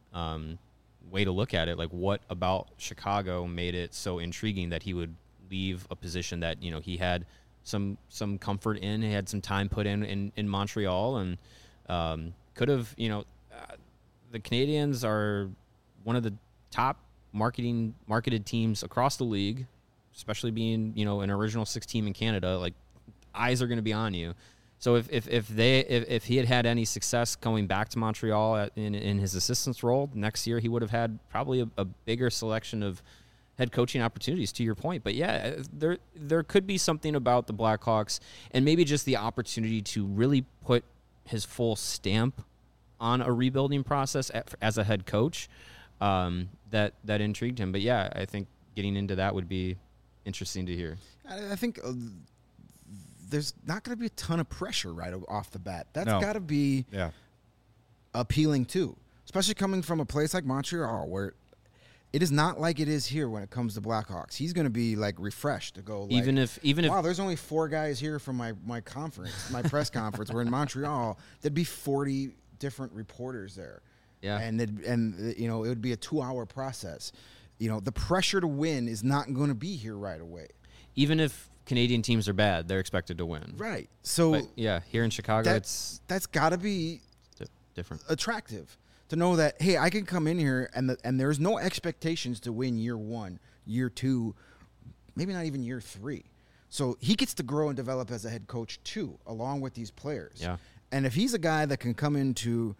way to look at it. Like, what about Chicago made it so intriguing that he would leave a position that he had some comfort in, he had some time put in Montreal, and could have the Canadiens are one of the top marketed teams across the league, especially being an original 6 team in Canada. Like, eyes are going to be on you. So if he had any success going back to Montreal in his assistant's role next year, he would have had probably a bigger selection of head coaching opportunities, to your point. But yeah, there could be something about the Blackhawks and maybe just the opportunity to really put his full stamp on a rebuilding process as a head coach that intrigued him. But yeah, I think getting into that would be interesting to hear. I think there's not going to be a ton of pressure right off the bat. That's got to be appealing too, especially coming from a place like Montreal where it is not like it is here when it comes to Blackhawks. He's going to be like refreshed to go. Like, even if wow, there's only 4 guys here from my conference, my press conference. We're in Montreal. There'd be 40 different reporters there. Yeah, and it would be a 2-hour process. The pressure to win is not going to be here right away. Even if Canadian teams are bad, they're expected to win. Right. So but yeah, here in Chicago, that's got to be different, attractive to know that, hey, I can come in here and there's no expectations to win year 1, year 2, maybe not even year 3. So he gets to grow and develop as a head coach too, along with these players. Yeah. And if he's a guy that can come into,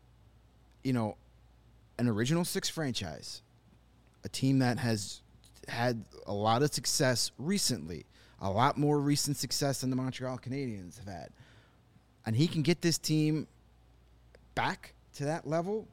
an original 6 franchise, a team that has had a lot of success recently, a lot more recent success than the Montreal Canadiens have had, and he can get this team back to that level,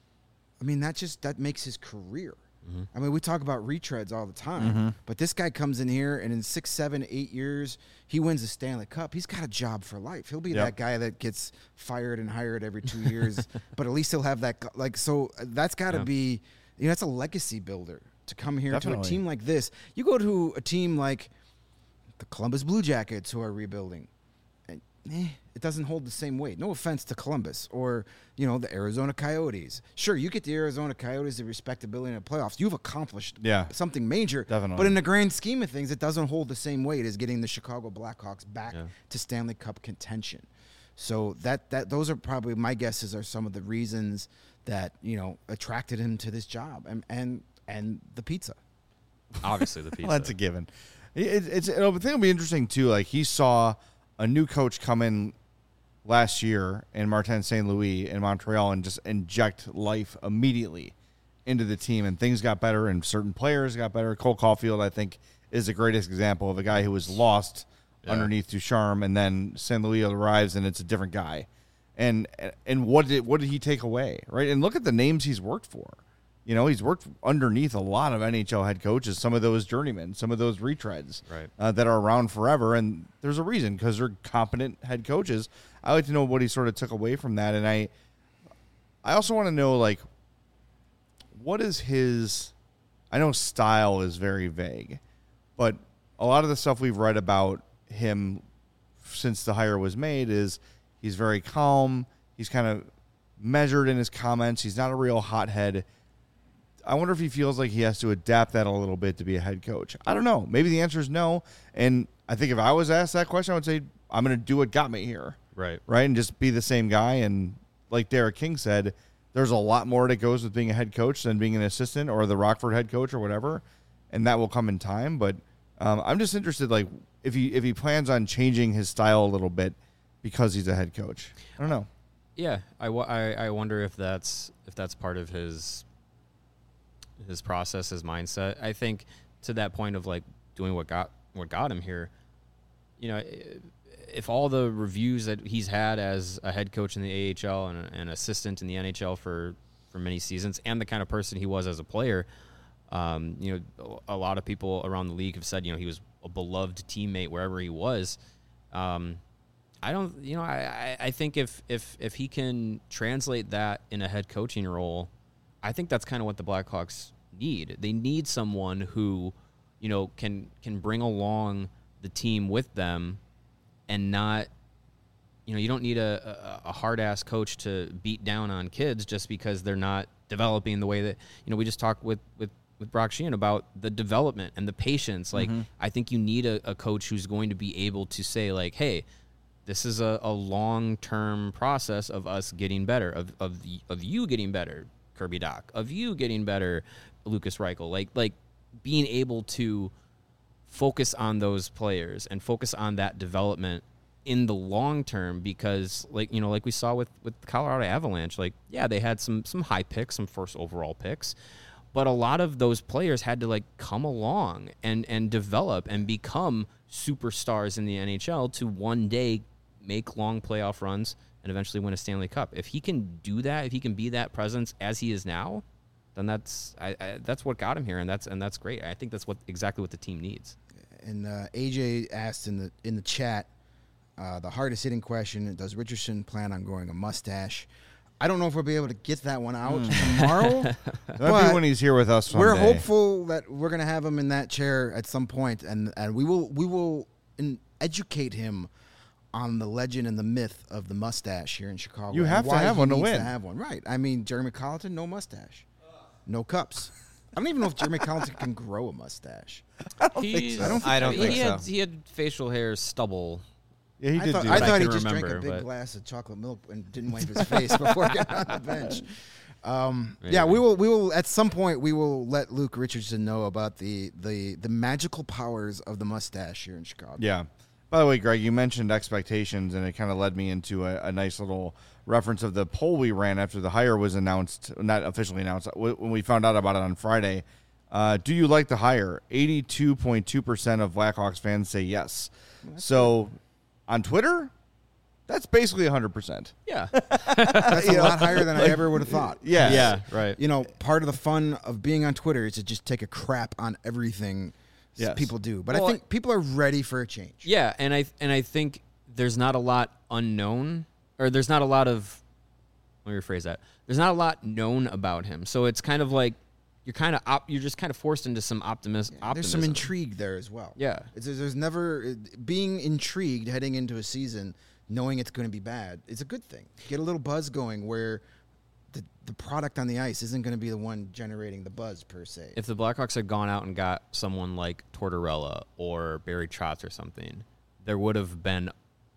I mean, that makes his career. Mm-hmm. I mean, we talk about retreads all the time, but this guy comes in here, and in 6, 7, 8 years, he wins the Stanley Cup. He's got a job for life. He'll be that guy that gets fired and hired every 2 years, but at least he'll have that. So that's got to be, that's a legacy builder to come here to a team like this. You go to a team like the Columbus Blue Jackets, who are rebuilding, and it doesn't hold the same weight. No offense to Columbus or, the Arizona Coyotes. Sure, you get the Arizona Coyotes the respectability in the playoffs. You've accomplished something major. Definitely. But in the grand scheme of things, it doesn't hold the same weight as getting the Chicago Blackhawks back to Stanley Cup contention. So those are probably, my guesses are some of the reasons that, attracted him to this job and the pizza. Obviously the pizza. Well, that's a given. I think it'll be interesting too. Like, he saw a new coach come in last year in Martin St. Louis in Montreal and just inject life immediately into the team, and things got better and certain players got better. Cole Caulfield, I think, is the greatest example of a guy who was lost underneath Ducharme, and then St. Louis arrives and it's a different guy. And what did he take away, right? And look at the names he's worked for. He's worked underneath a lot of NHL head coaches, some of those journeymen, some of those retreads that are around forever. And there's a reason, because they're competent head coaches. I like to know what he sort of took away from that. And I also want to know, like, what is his – I know style is very vague, but a lot of the stuff we've read about him since the hire was made is he's very calm. He's kind of measured in his comments. He's not a real hothead. I wonder if he feels like he has to adapt that a little bit to be a head coach. I don't know. Maybe the answer is no. And I think if I was asked that question, I would say I'm going to do what got me here. Right. And just be the same guy. And like Derek King said, there's a lot more that goes with being a head coach than being an assistant or the Rockford head coach or whatever. And that will come in time. But I'm just interested, like, if he plans on changing his style a little bit because he's a head coach. I don't know. Yeah. I wonder if that's part of his process, his mindset. I think to that point of, like, doing what got him here, if all the reviews that he's had as a head coach in the AHL and an assistant in the NHL for many seasons, and the kind of person he was as a player, you know, a lot of people around the league have said, you know, he was a beloved teammate wherever he was. I don't, you know, I think if he can translate that in a head coaching role, I think that's kind of what the Blackhawks need. They need someone who, you know, can bring along the team with them, and not, you know, you don't need a hard-ass coach to beat down on kids just because they're not developing the way that, you know, we just talked with Brock Sheehan about the development and the patience. Like, I think you need a coach who's going to be able to say, like, hey, this is a long-term process of us getting better, of you getting better, Kirby Dach, of you getting better, Lucas Reichel. Like being able to focus on those players and focus on that development in the long term, because, like, you know, like we saw with Colorado Avalanche, like, yeah, they had some high picks, some first overall picks, but a lot of those players had to, like, come along and develop and become superstars in the NHL to one day make long playoff runs and eventually win a Stanley Cup. If he can do that, if he can be that presence as he is now, then that's what got him here, and that's great. I think that's exactly what the team needs. And AJ asked in the chat, the hardest hitting question: does Richardson plan on growing a mustache? I don't know if we'll be able to get that one out tomorrow. That'll be when he's here with us one We're day. hopeful that we're going to have him in that chair at some point, and we will educate him on the legend and the myth of the mustache here in Chicago. You have to have one to win. To have one, right? I mean, Jeremy Colleton, no mustache, no cups. I don't even know if Jeremy Colleton can grow a mustache. I don't think so. He had facial hair stubble. Yeah, he did. I thought he just remember, drank a big glass of chocolate milk and didn't wipe his face before getting on the bench. Yeah, we will at some point we will let Luke Richardson know about the magical powers of the mustache here in Chicago. Yeah. By the way, Greg, you mentioned expectations, and it kind of led me into a nice little reference of the poll we ran after the hire was announced, not officially announced, when we found out about it on Friday. Do you like the hire? 82.2% of Blackhawks fans say yes. So on Twitter, that's basically 100%. Yeah. That's a lot higher than I ever would have thought. Yeah. Yeah, right. You know, part of the fun of being on Twitter is to just take a crap on everything people do. But I think people are ready for a change. Yeah, and I think there's not a lot unknown, or there's not a lot of, let me rephrase that. There's not a lot known about him. So it's kind of like you're just kind of forced into some optimism. There's some intrigue there as well. Yeah. There's never being intrigued heading into a season knowing it's going to be bad. It's a good thing. Get a little buzz going where the product on the ice isn't going to be the one generating the buzz per se. If the Blackhawks had gone out and got someone like Tortorella or Barry Trotz or something, there would have been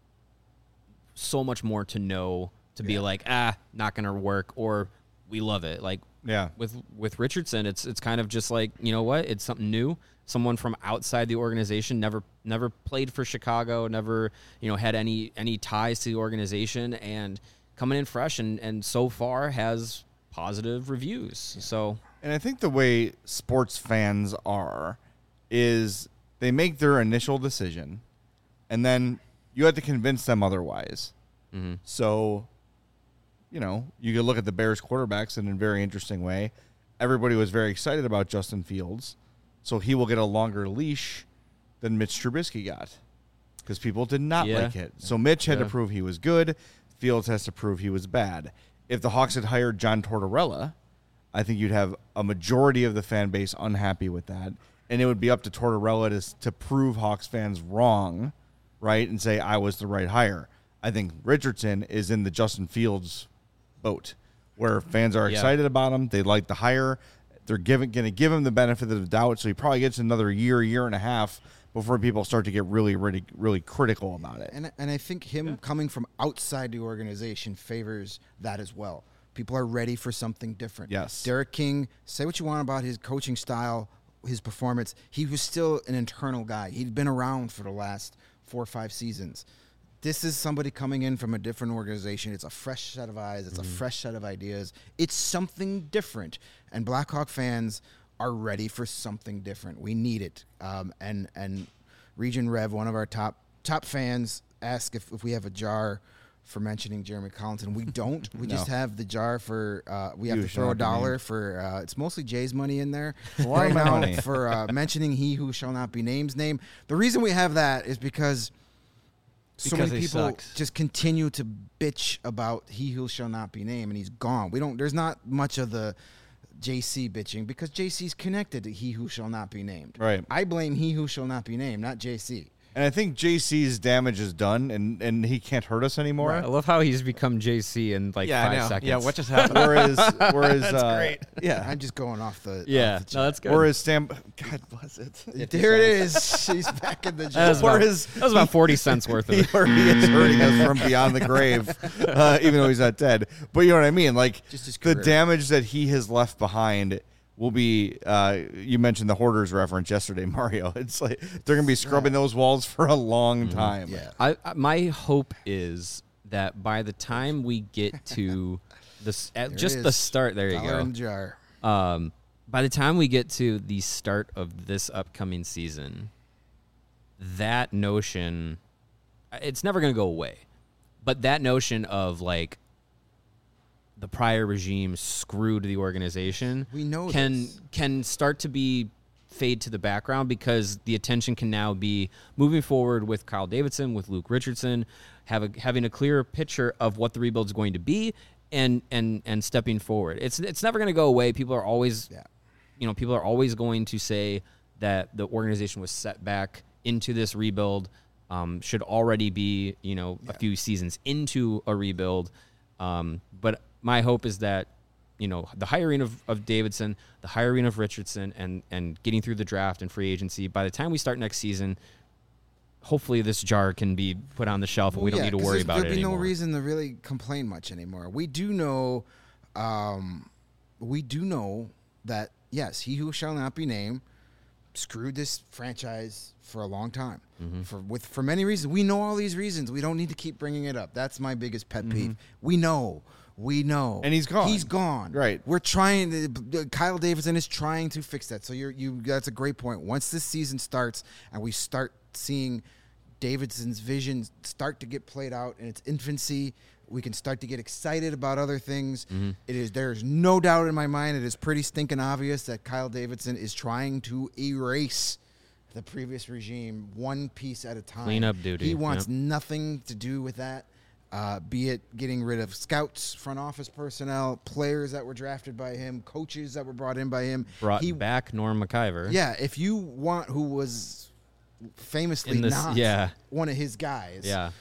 so much more to know to be like, not going to work, or we love it. Like, with Richardson, it's kind of just like, you know what? It's something new. Someone from outside the organization, never played for Chicago, never, you know, had any ties to the organization, and coming in fresh and so far has positive reviews. So, and I think the way sports fans are is they make their initial decision, and then you have to convince them otherwise. Mm-hmm. So, you know, you could look at the Bears quarterbacks in a very interesting way. Everybody was very excited about Justin Fields, so he will get a longer leash than Mitch Trubisky got because people did not like it. So Mitch had to prove he was good. Fields has to prove he was bad. If the Hawks had hired John Tortorella, I think you'd have a majority of the fan base unhappy with that, and it would be up to Tortorella to prove Hawks fans wrong, right, and say, I was the right hire. I think Richardson is in the Justin Fields boat, where fans are excited about him. They like the hire. They're going to give him the benefit of the doubt, so he probably gets another year and a half before people start to get really, really, really critical about it. And I think him coming from outside the organization favors that as well. People are ready for something different. Yes. Derek King, say what you want about his coaching style, his performance. He was still an internal guy. He'd been around for the last 4 or 5 seasons. This is somebody coming in from a different organization. It's a fresh set of eyes. It's a fresh set of ideas. It's something different. And Blackhawk fans are ready for something different. We need it. And Region Rev, one of our top fans, ask if we have a jar for mentioning Jeremy Collinton. We don't. We just have the jar for we have to throw $1 for it's mostly Jay's money in there right now for mentioning he who shall not be named's name. The reason we have that is because so many people just continue to bitch about he who shall not be named, and he's gone. There's not much of the JC bitching because JC's connected to he who shall not be named. Right. I blame he who shall not be named, not JC. And I think JC's damage is done, and he can't hurt us anymore. Right. I love how he's become JC in 5 seconds. Yeah, what just happened? Whereas that's great. Yeah, I'm just going off the. Yeah, off the no, that's good. Whereas Sam, God bless it. There it is. She's back in the That jar. was about 40 cents worth of it. He is hurting us from beyond the grave, even though he's not dead. But you know what I mean? Like Just his the career. damage that he has left behind will be. You mentioned the Hoarders reference yesterday, Mario. It's like they're gonna be scrubbing those walls for a long time. Yeah. My hope is that by the time we get to this, the start, there you $1 go. in the jar. By the time we get to the start of this upcoming season, that notion, it's never going to go away. But that notion of like the prior regime screwed the organization, We know can start to fade to the background because the attention can now be moving forward with Kyle Davidson, with Luke Richardson, having a clearer picture of what the rebuild is going to be, and stepping forward. It's never going to go away. People are always, people are always going to say that the organization was set back into this rebuild, should already be a few seasons into a rebuild, but my hope is that the hiring of Davidson, the hiring of Richardson, and getting through the draft and free agency, by the time we start next season, hopefully this jar can be put on the shelf and we don't need to worry about it anymore. There'll be no reason to really complain much anymore. We do know that, yes, he who shall not be named screwed this franchise for a long time. For many reasons. We know all these reasons. We don't need to keep bringing it up. That's my biggest pet peeve. We know. And he's gone. He's gone. Right. We're trying Kyle Davidson is trying to fix that. So that's a great point. Once this season starts and we start seeing Davidson's vision start to get played out in its infancy, we can start to get excited about other things. There's no doubt in my mind, it is pretty stinking obvious that Kyle Davidson is trying to erase the previous regime one piece at a time. Clean up duty. He wants nothing to do with that. Be it getting rid of scouts, front office personnel, players that were drafted by him, coaches that were brought in by him. Brought back Norm McIver. Yeah, if you want who was famously not one of his guys. Yeah.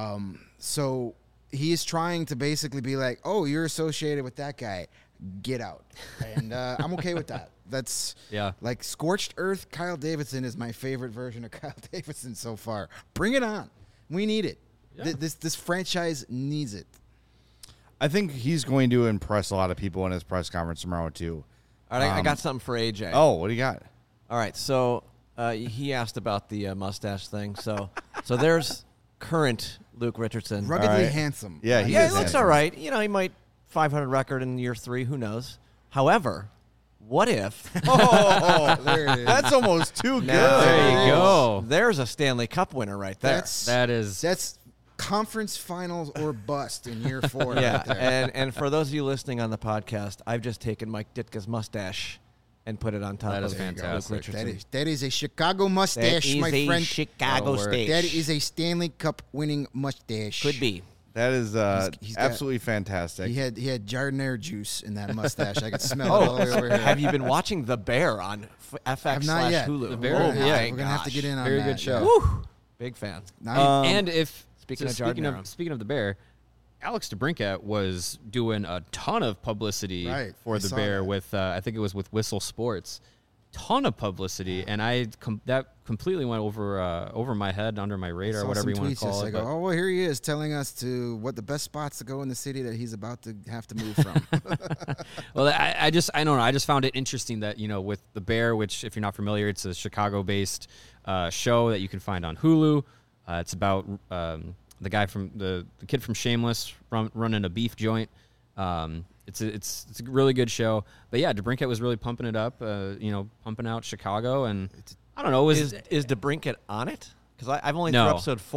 So he is trying to basically be like, oh, you're associated with that guy. Get out. And I'm okay with that. That's like Scorched Earth. Kyle Davidson is my favorite version of Kyle Davidson so far. Bring it on. We need it. Yeah. This franchise needs it. I think he's going to impress a lot of people in his press conference tomorrow, too. All right, I got something for AJ. Oh, what do you got? All right, so he asked about the mustache thing. So there's current Luke Richardson. Ruggedly handsome. Yeah, he looks all right. He might 500 record in year 3. Who knows? However, what if? There it is. That's almost too good. There you go. There's a Stanley Cup winner right there. That's conference finals or bust in year 4. Yeah, right there. and for those of you listening on the podcast, I've just taken Mike Ditka's mustache and put it on top that of is fantastic. Luke Richardson. That is a Chicago mustache, my friend. Chicago stash. That is a Stanley Cup winning mustache. Could be. That is He's got- absolutely fantastic. He had jardinier juice in that mustache. I could smell it all the way over here. Have you been watching The Bear on FX not yet. Hulu? The Bear, Oh, yeah. my We're gonna have to get in on Very that. good show. Woo! Big fan. And if Speaking of speaking Jardinero. of the Bear, Alex DeBrincat was doing a ton of publicity for I the saw Bear that. with I think it was with Whistle Sports, ton of publicity, and that completely went over my head, under my radar, Saw whatever some you want to tweets call just it. like, but- oh, well, here he is telling us what the best spots to go in the city that he's about to have to move from. Well, I don't know. I just found it interesting that, with The Bear, which, if you're not familiar, it's a Chicago-based show that you can find on Hulu. It's about the guy from the kid from Shameless running a beef joint. It's a really good show. But yeah, DeBrincat was really pumping it up. Pumping out Chicago, and I don't know. Is DeBrincat on it? Because I've only through episode 4.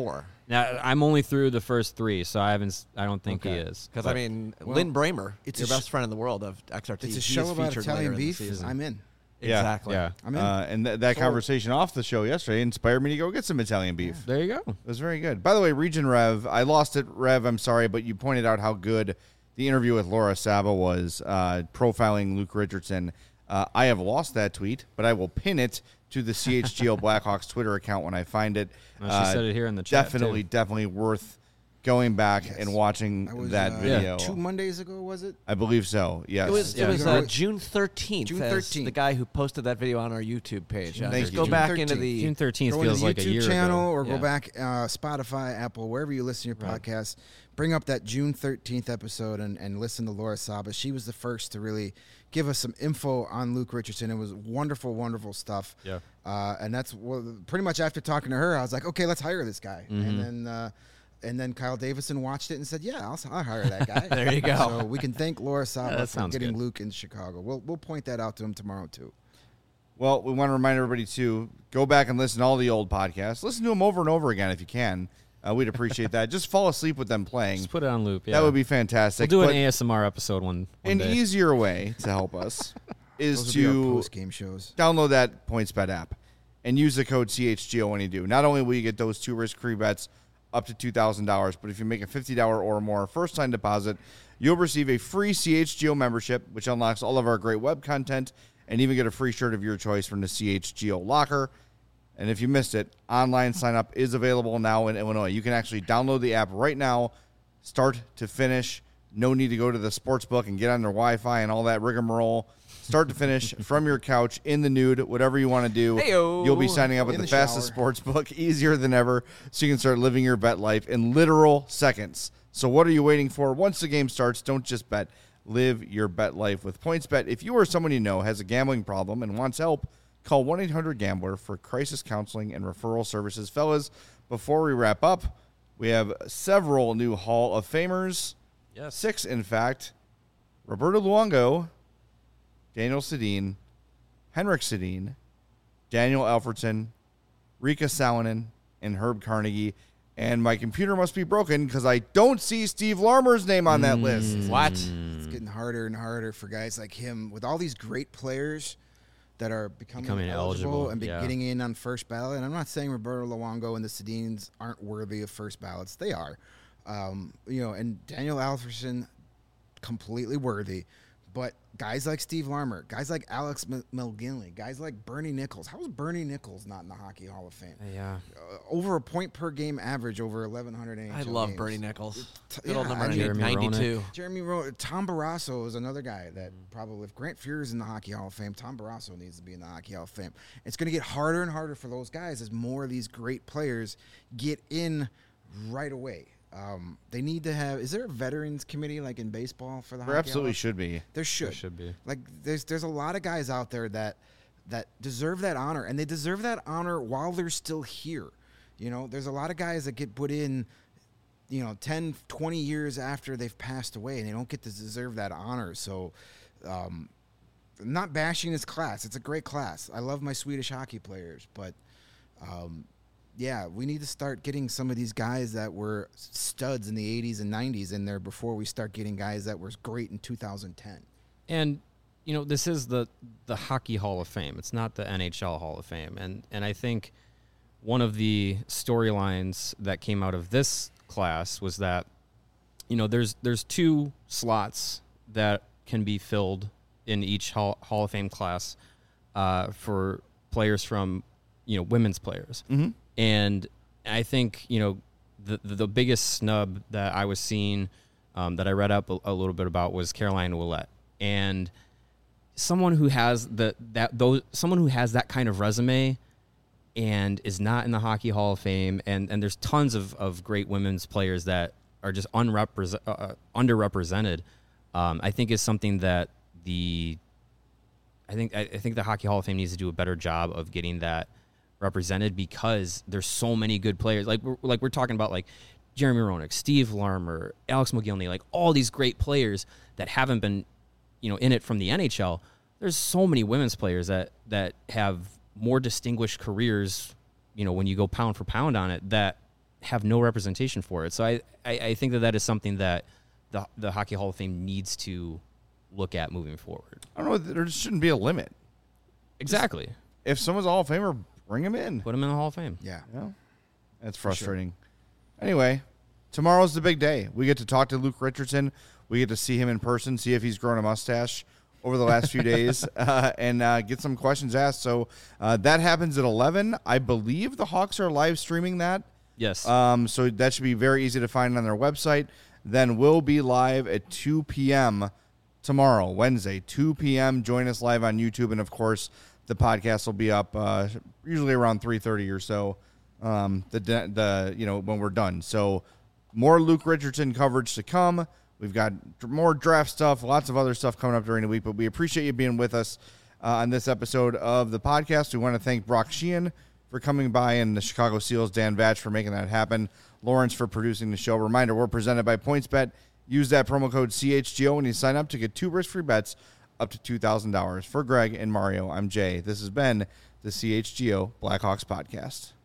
Now, I'm only through the first 3, so I don't think he is. Because, I mean, Lynn Bramer, it's your best friend in the world of XRT. It's a show about Italian beef. I'm in. Exactly. Yeah. I'm in. And that conversation off the show yesterday inspired me to go get some Italian beef. There you go. It was very good. By the way, Region Rev, I lost it, Rev, I'm sorry, but you pointed out how good the interview with Laura Saba was, profiling Luke Richardson. I have lost that tweet, but I will pin it to the CHGO Blackhawks Twitter account when I find it. She said it here in the chat. Definitely worth going back and watching that video. 2 Mondays ago, was it? I believe so, yes. It was June 13th. June 13th. The guy who posted that video on our YouTube page. Thank you. Go back into the June 13th go feels into like a year YouTube channel ago. or go back Spotify, Apple, wherever you listen to your podcast. Bring up that June 13th episode and listen to Laura Saba. She was the first to really give us some info on Luke Richardson. It was wonderful, wonderful stuff. Yeah. And that's pretty much after talking to her, I was like, okay, let's hire this guy. And then Kyle Davison watched it and said, yeah, I'll hire that guy. There you go. So we can thank Laura Saba for getting good. Luke in Chicago. We'll point that out to him tomorrow, too. Well, we want to remind everybody to go back and listen to all the old podcasts. Listen to them over and over again if you can. We'd appreciate that. Just fall asleep with them playing. Just put it on loop. Yeah. That would be fantastic. We'll do an ASMR episode one An day. easier way to help us is Those will be our to post-game shows. download that PointsBet app and use the code CHGO when you do. Not only will you get those 2 risk-free bets up to $2,000, but if you make a $50 or more first-time deposit, you'll receive a free CHGO membership, which unlocks all of our great web content, and even get a free shirt of your choice from the CHGO locker. And if you missed it, online sign-up is available now in Illinois. You can actually download the app right now, start to finish. No need to go to the sports book and get on their Wi-Fi and all that rigmarole. Start to finish from your couch, in the nude, whatever you want to do. Hey-o. You'll be signing up at the fastest sports book, easier than ever, so you can start living your bet life in literal seconds. So what are you waiting for? Once the game starts, don't just bet. Live your bet life with PointsBet. If you or someone you know has a gambling problem and wants help, call 1-800-GAMBLER for crisis counseling and referral services. Fellas, before we wrap up, we have several new Hall of Famers. Yes. 6, in fact. Roberto Luongo, Daniel Sedin, Henrik Sedin, Daniel Alfredsson, Rika Salonen, and Herb Carnegie. And my computer must be broken because I don't see Steve Larmer's name on that list. What? It's getting harder and harder for guys like him with all these great players that are becoming eligible and getting in on first ballot. And I'm not saying Roberto Luongo and the Sedins aren't worthy of first ballots. They are. And Daniel Alfredsson, completely worthy. But guys like Steve Larmer, guys like Alex McGinley, guys like Bernie Nichols. How is Bernie Nichols not in the Hockey Hall of Fame? Yeah. Over a point per game average over 1,100 NHL I love games. Bernie Nichols. Good old number Jeremy 92. Jeremy Tom Barrasso is another guy that probably, if Grant Fuhr is in the Hockey Hall of Fame, Tom Barrasso needs to be in the Hockey Hall of Fame. It's going to get harder and harder for those guys as more of these great players get in right away. They need to have. Is there a veterans committee like in baseball for the? There absolutely should be. There should. There should be. Like there's a lot of guys out there that deserve that honor, and they deserve that honor while they're still here. You know, there's a lot of guys that get put in, 10, 20 years after they've passed away, and they don't get to deserve that honor. So, not bashing this class. It's a great class. I love my Swedish hockey players, but. Yeah, we need to start getting some of these guys that were studs in the 80s and 90s in there before we start getting guys that were great in 2010. And, this is the Hockey Hall of Fame. It's not the NHL Hall of Fame. And I think one of the storylines that came out of this class was that, there's 2 slots that can be filled in each Hall of Fame class for players from, women's players. Mm-hmm. And I think, the biggest snub that I was seeing that I read up a little bit about was Caroline Ouellette. And someone who has someone who has that kind of resume and is not in the Hockey Hall of Fame, and there's tons of great women's players that are just underrepresented, I think is something that I think the Hockey Hall of Fame needs to do a better job of getting that represented, because there's so many good players. Like we're talking about, like Jeremy Roenick, Steve Larmer, Alex McGinley, like all these great players that haven't been, in it from the NHL. There's so many women's players that have more distinguished careers, when you go pound for pound on it, that have no representation for it. So I think that is something that the Hockey Hall of Fame needs to look at moving forward. I don't know. There shouldn't be a limit. Exactly. If someone's a Hall of Famer, bring him in. Put him in the Hall of Fame. Yeah. That's frustrating. Sure. Anyway, tomorrow's the big day. We get to talk to Luke Richardson. We get to see him in person, see if he's grown a mustache over the last few days, and get some questions asked. So that happens at 11. I believe the Hawks are live streaming that. Yes. So that should be very easy to find on their website. Then we'll be live at 2 p.m. tomorrow, Wednesday, 2 p.m. Join us live on YouTube. And, of course, the podcast will be up usually around 3:30 or so when we're done. So more Luke Richardson coverage to come. We've got more draft stuff, lots of other stuff coming up during the week. But we appreciate you being with us on this episode of the podcast. We want to thank Brock Sheehan for coming by, and the Chicago Seals, Dan Vatch, for making that happen. Lawrence for producing the show. Reminder, we're presented by PointsBet. Use that promo code CHGO when you sign up to get 2 risk-free bets up to $2,000. For Greg and Mario, I'm Jay. This has been the CHGO Blackhawks Podcast.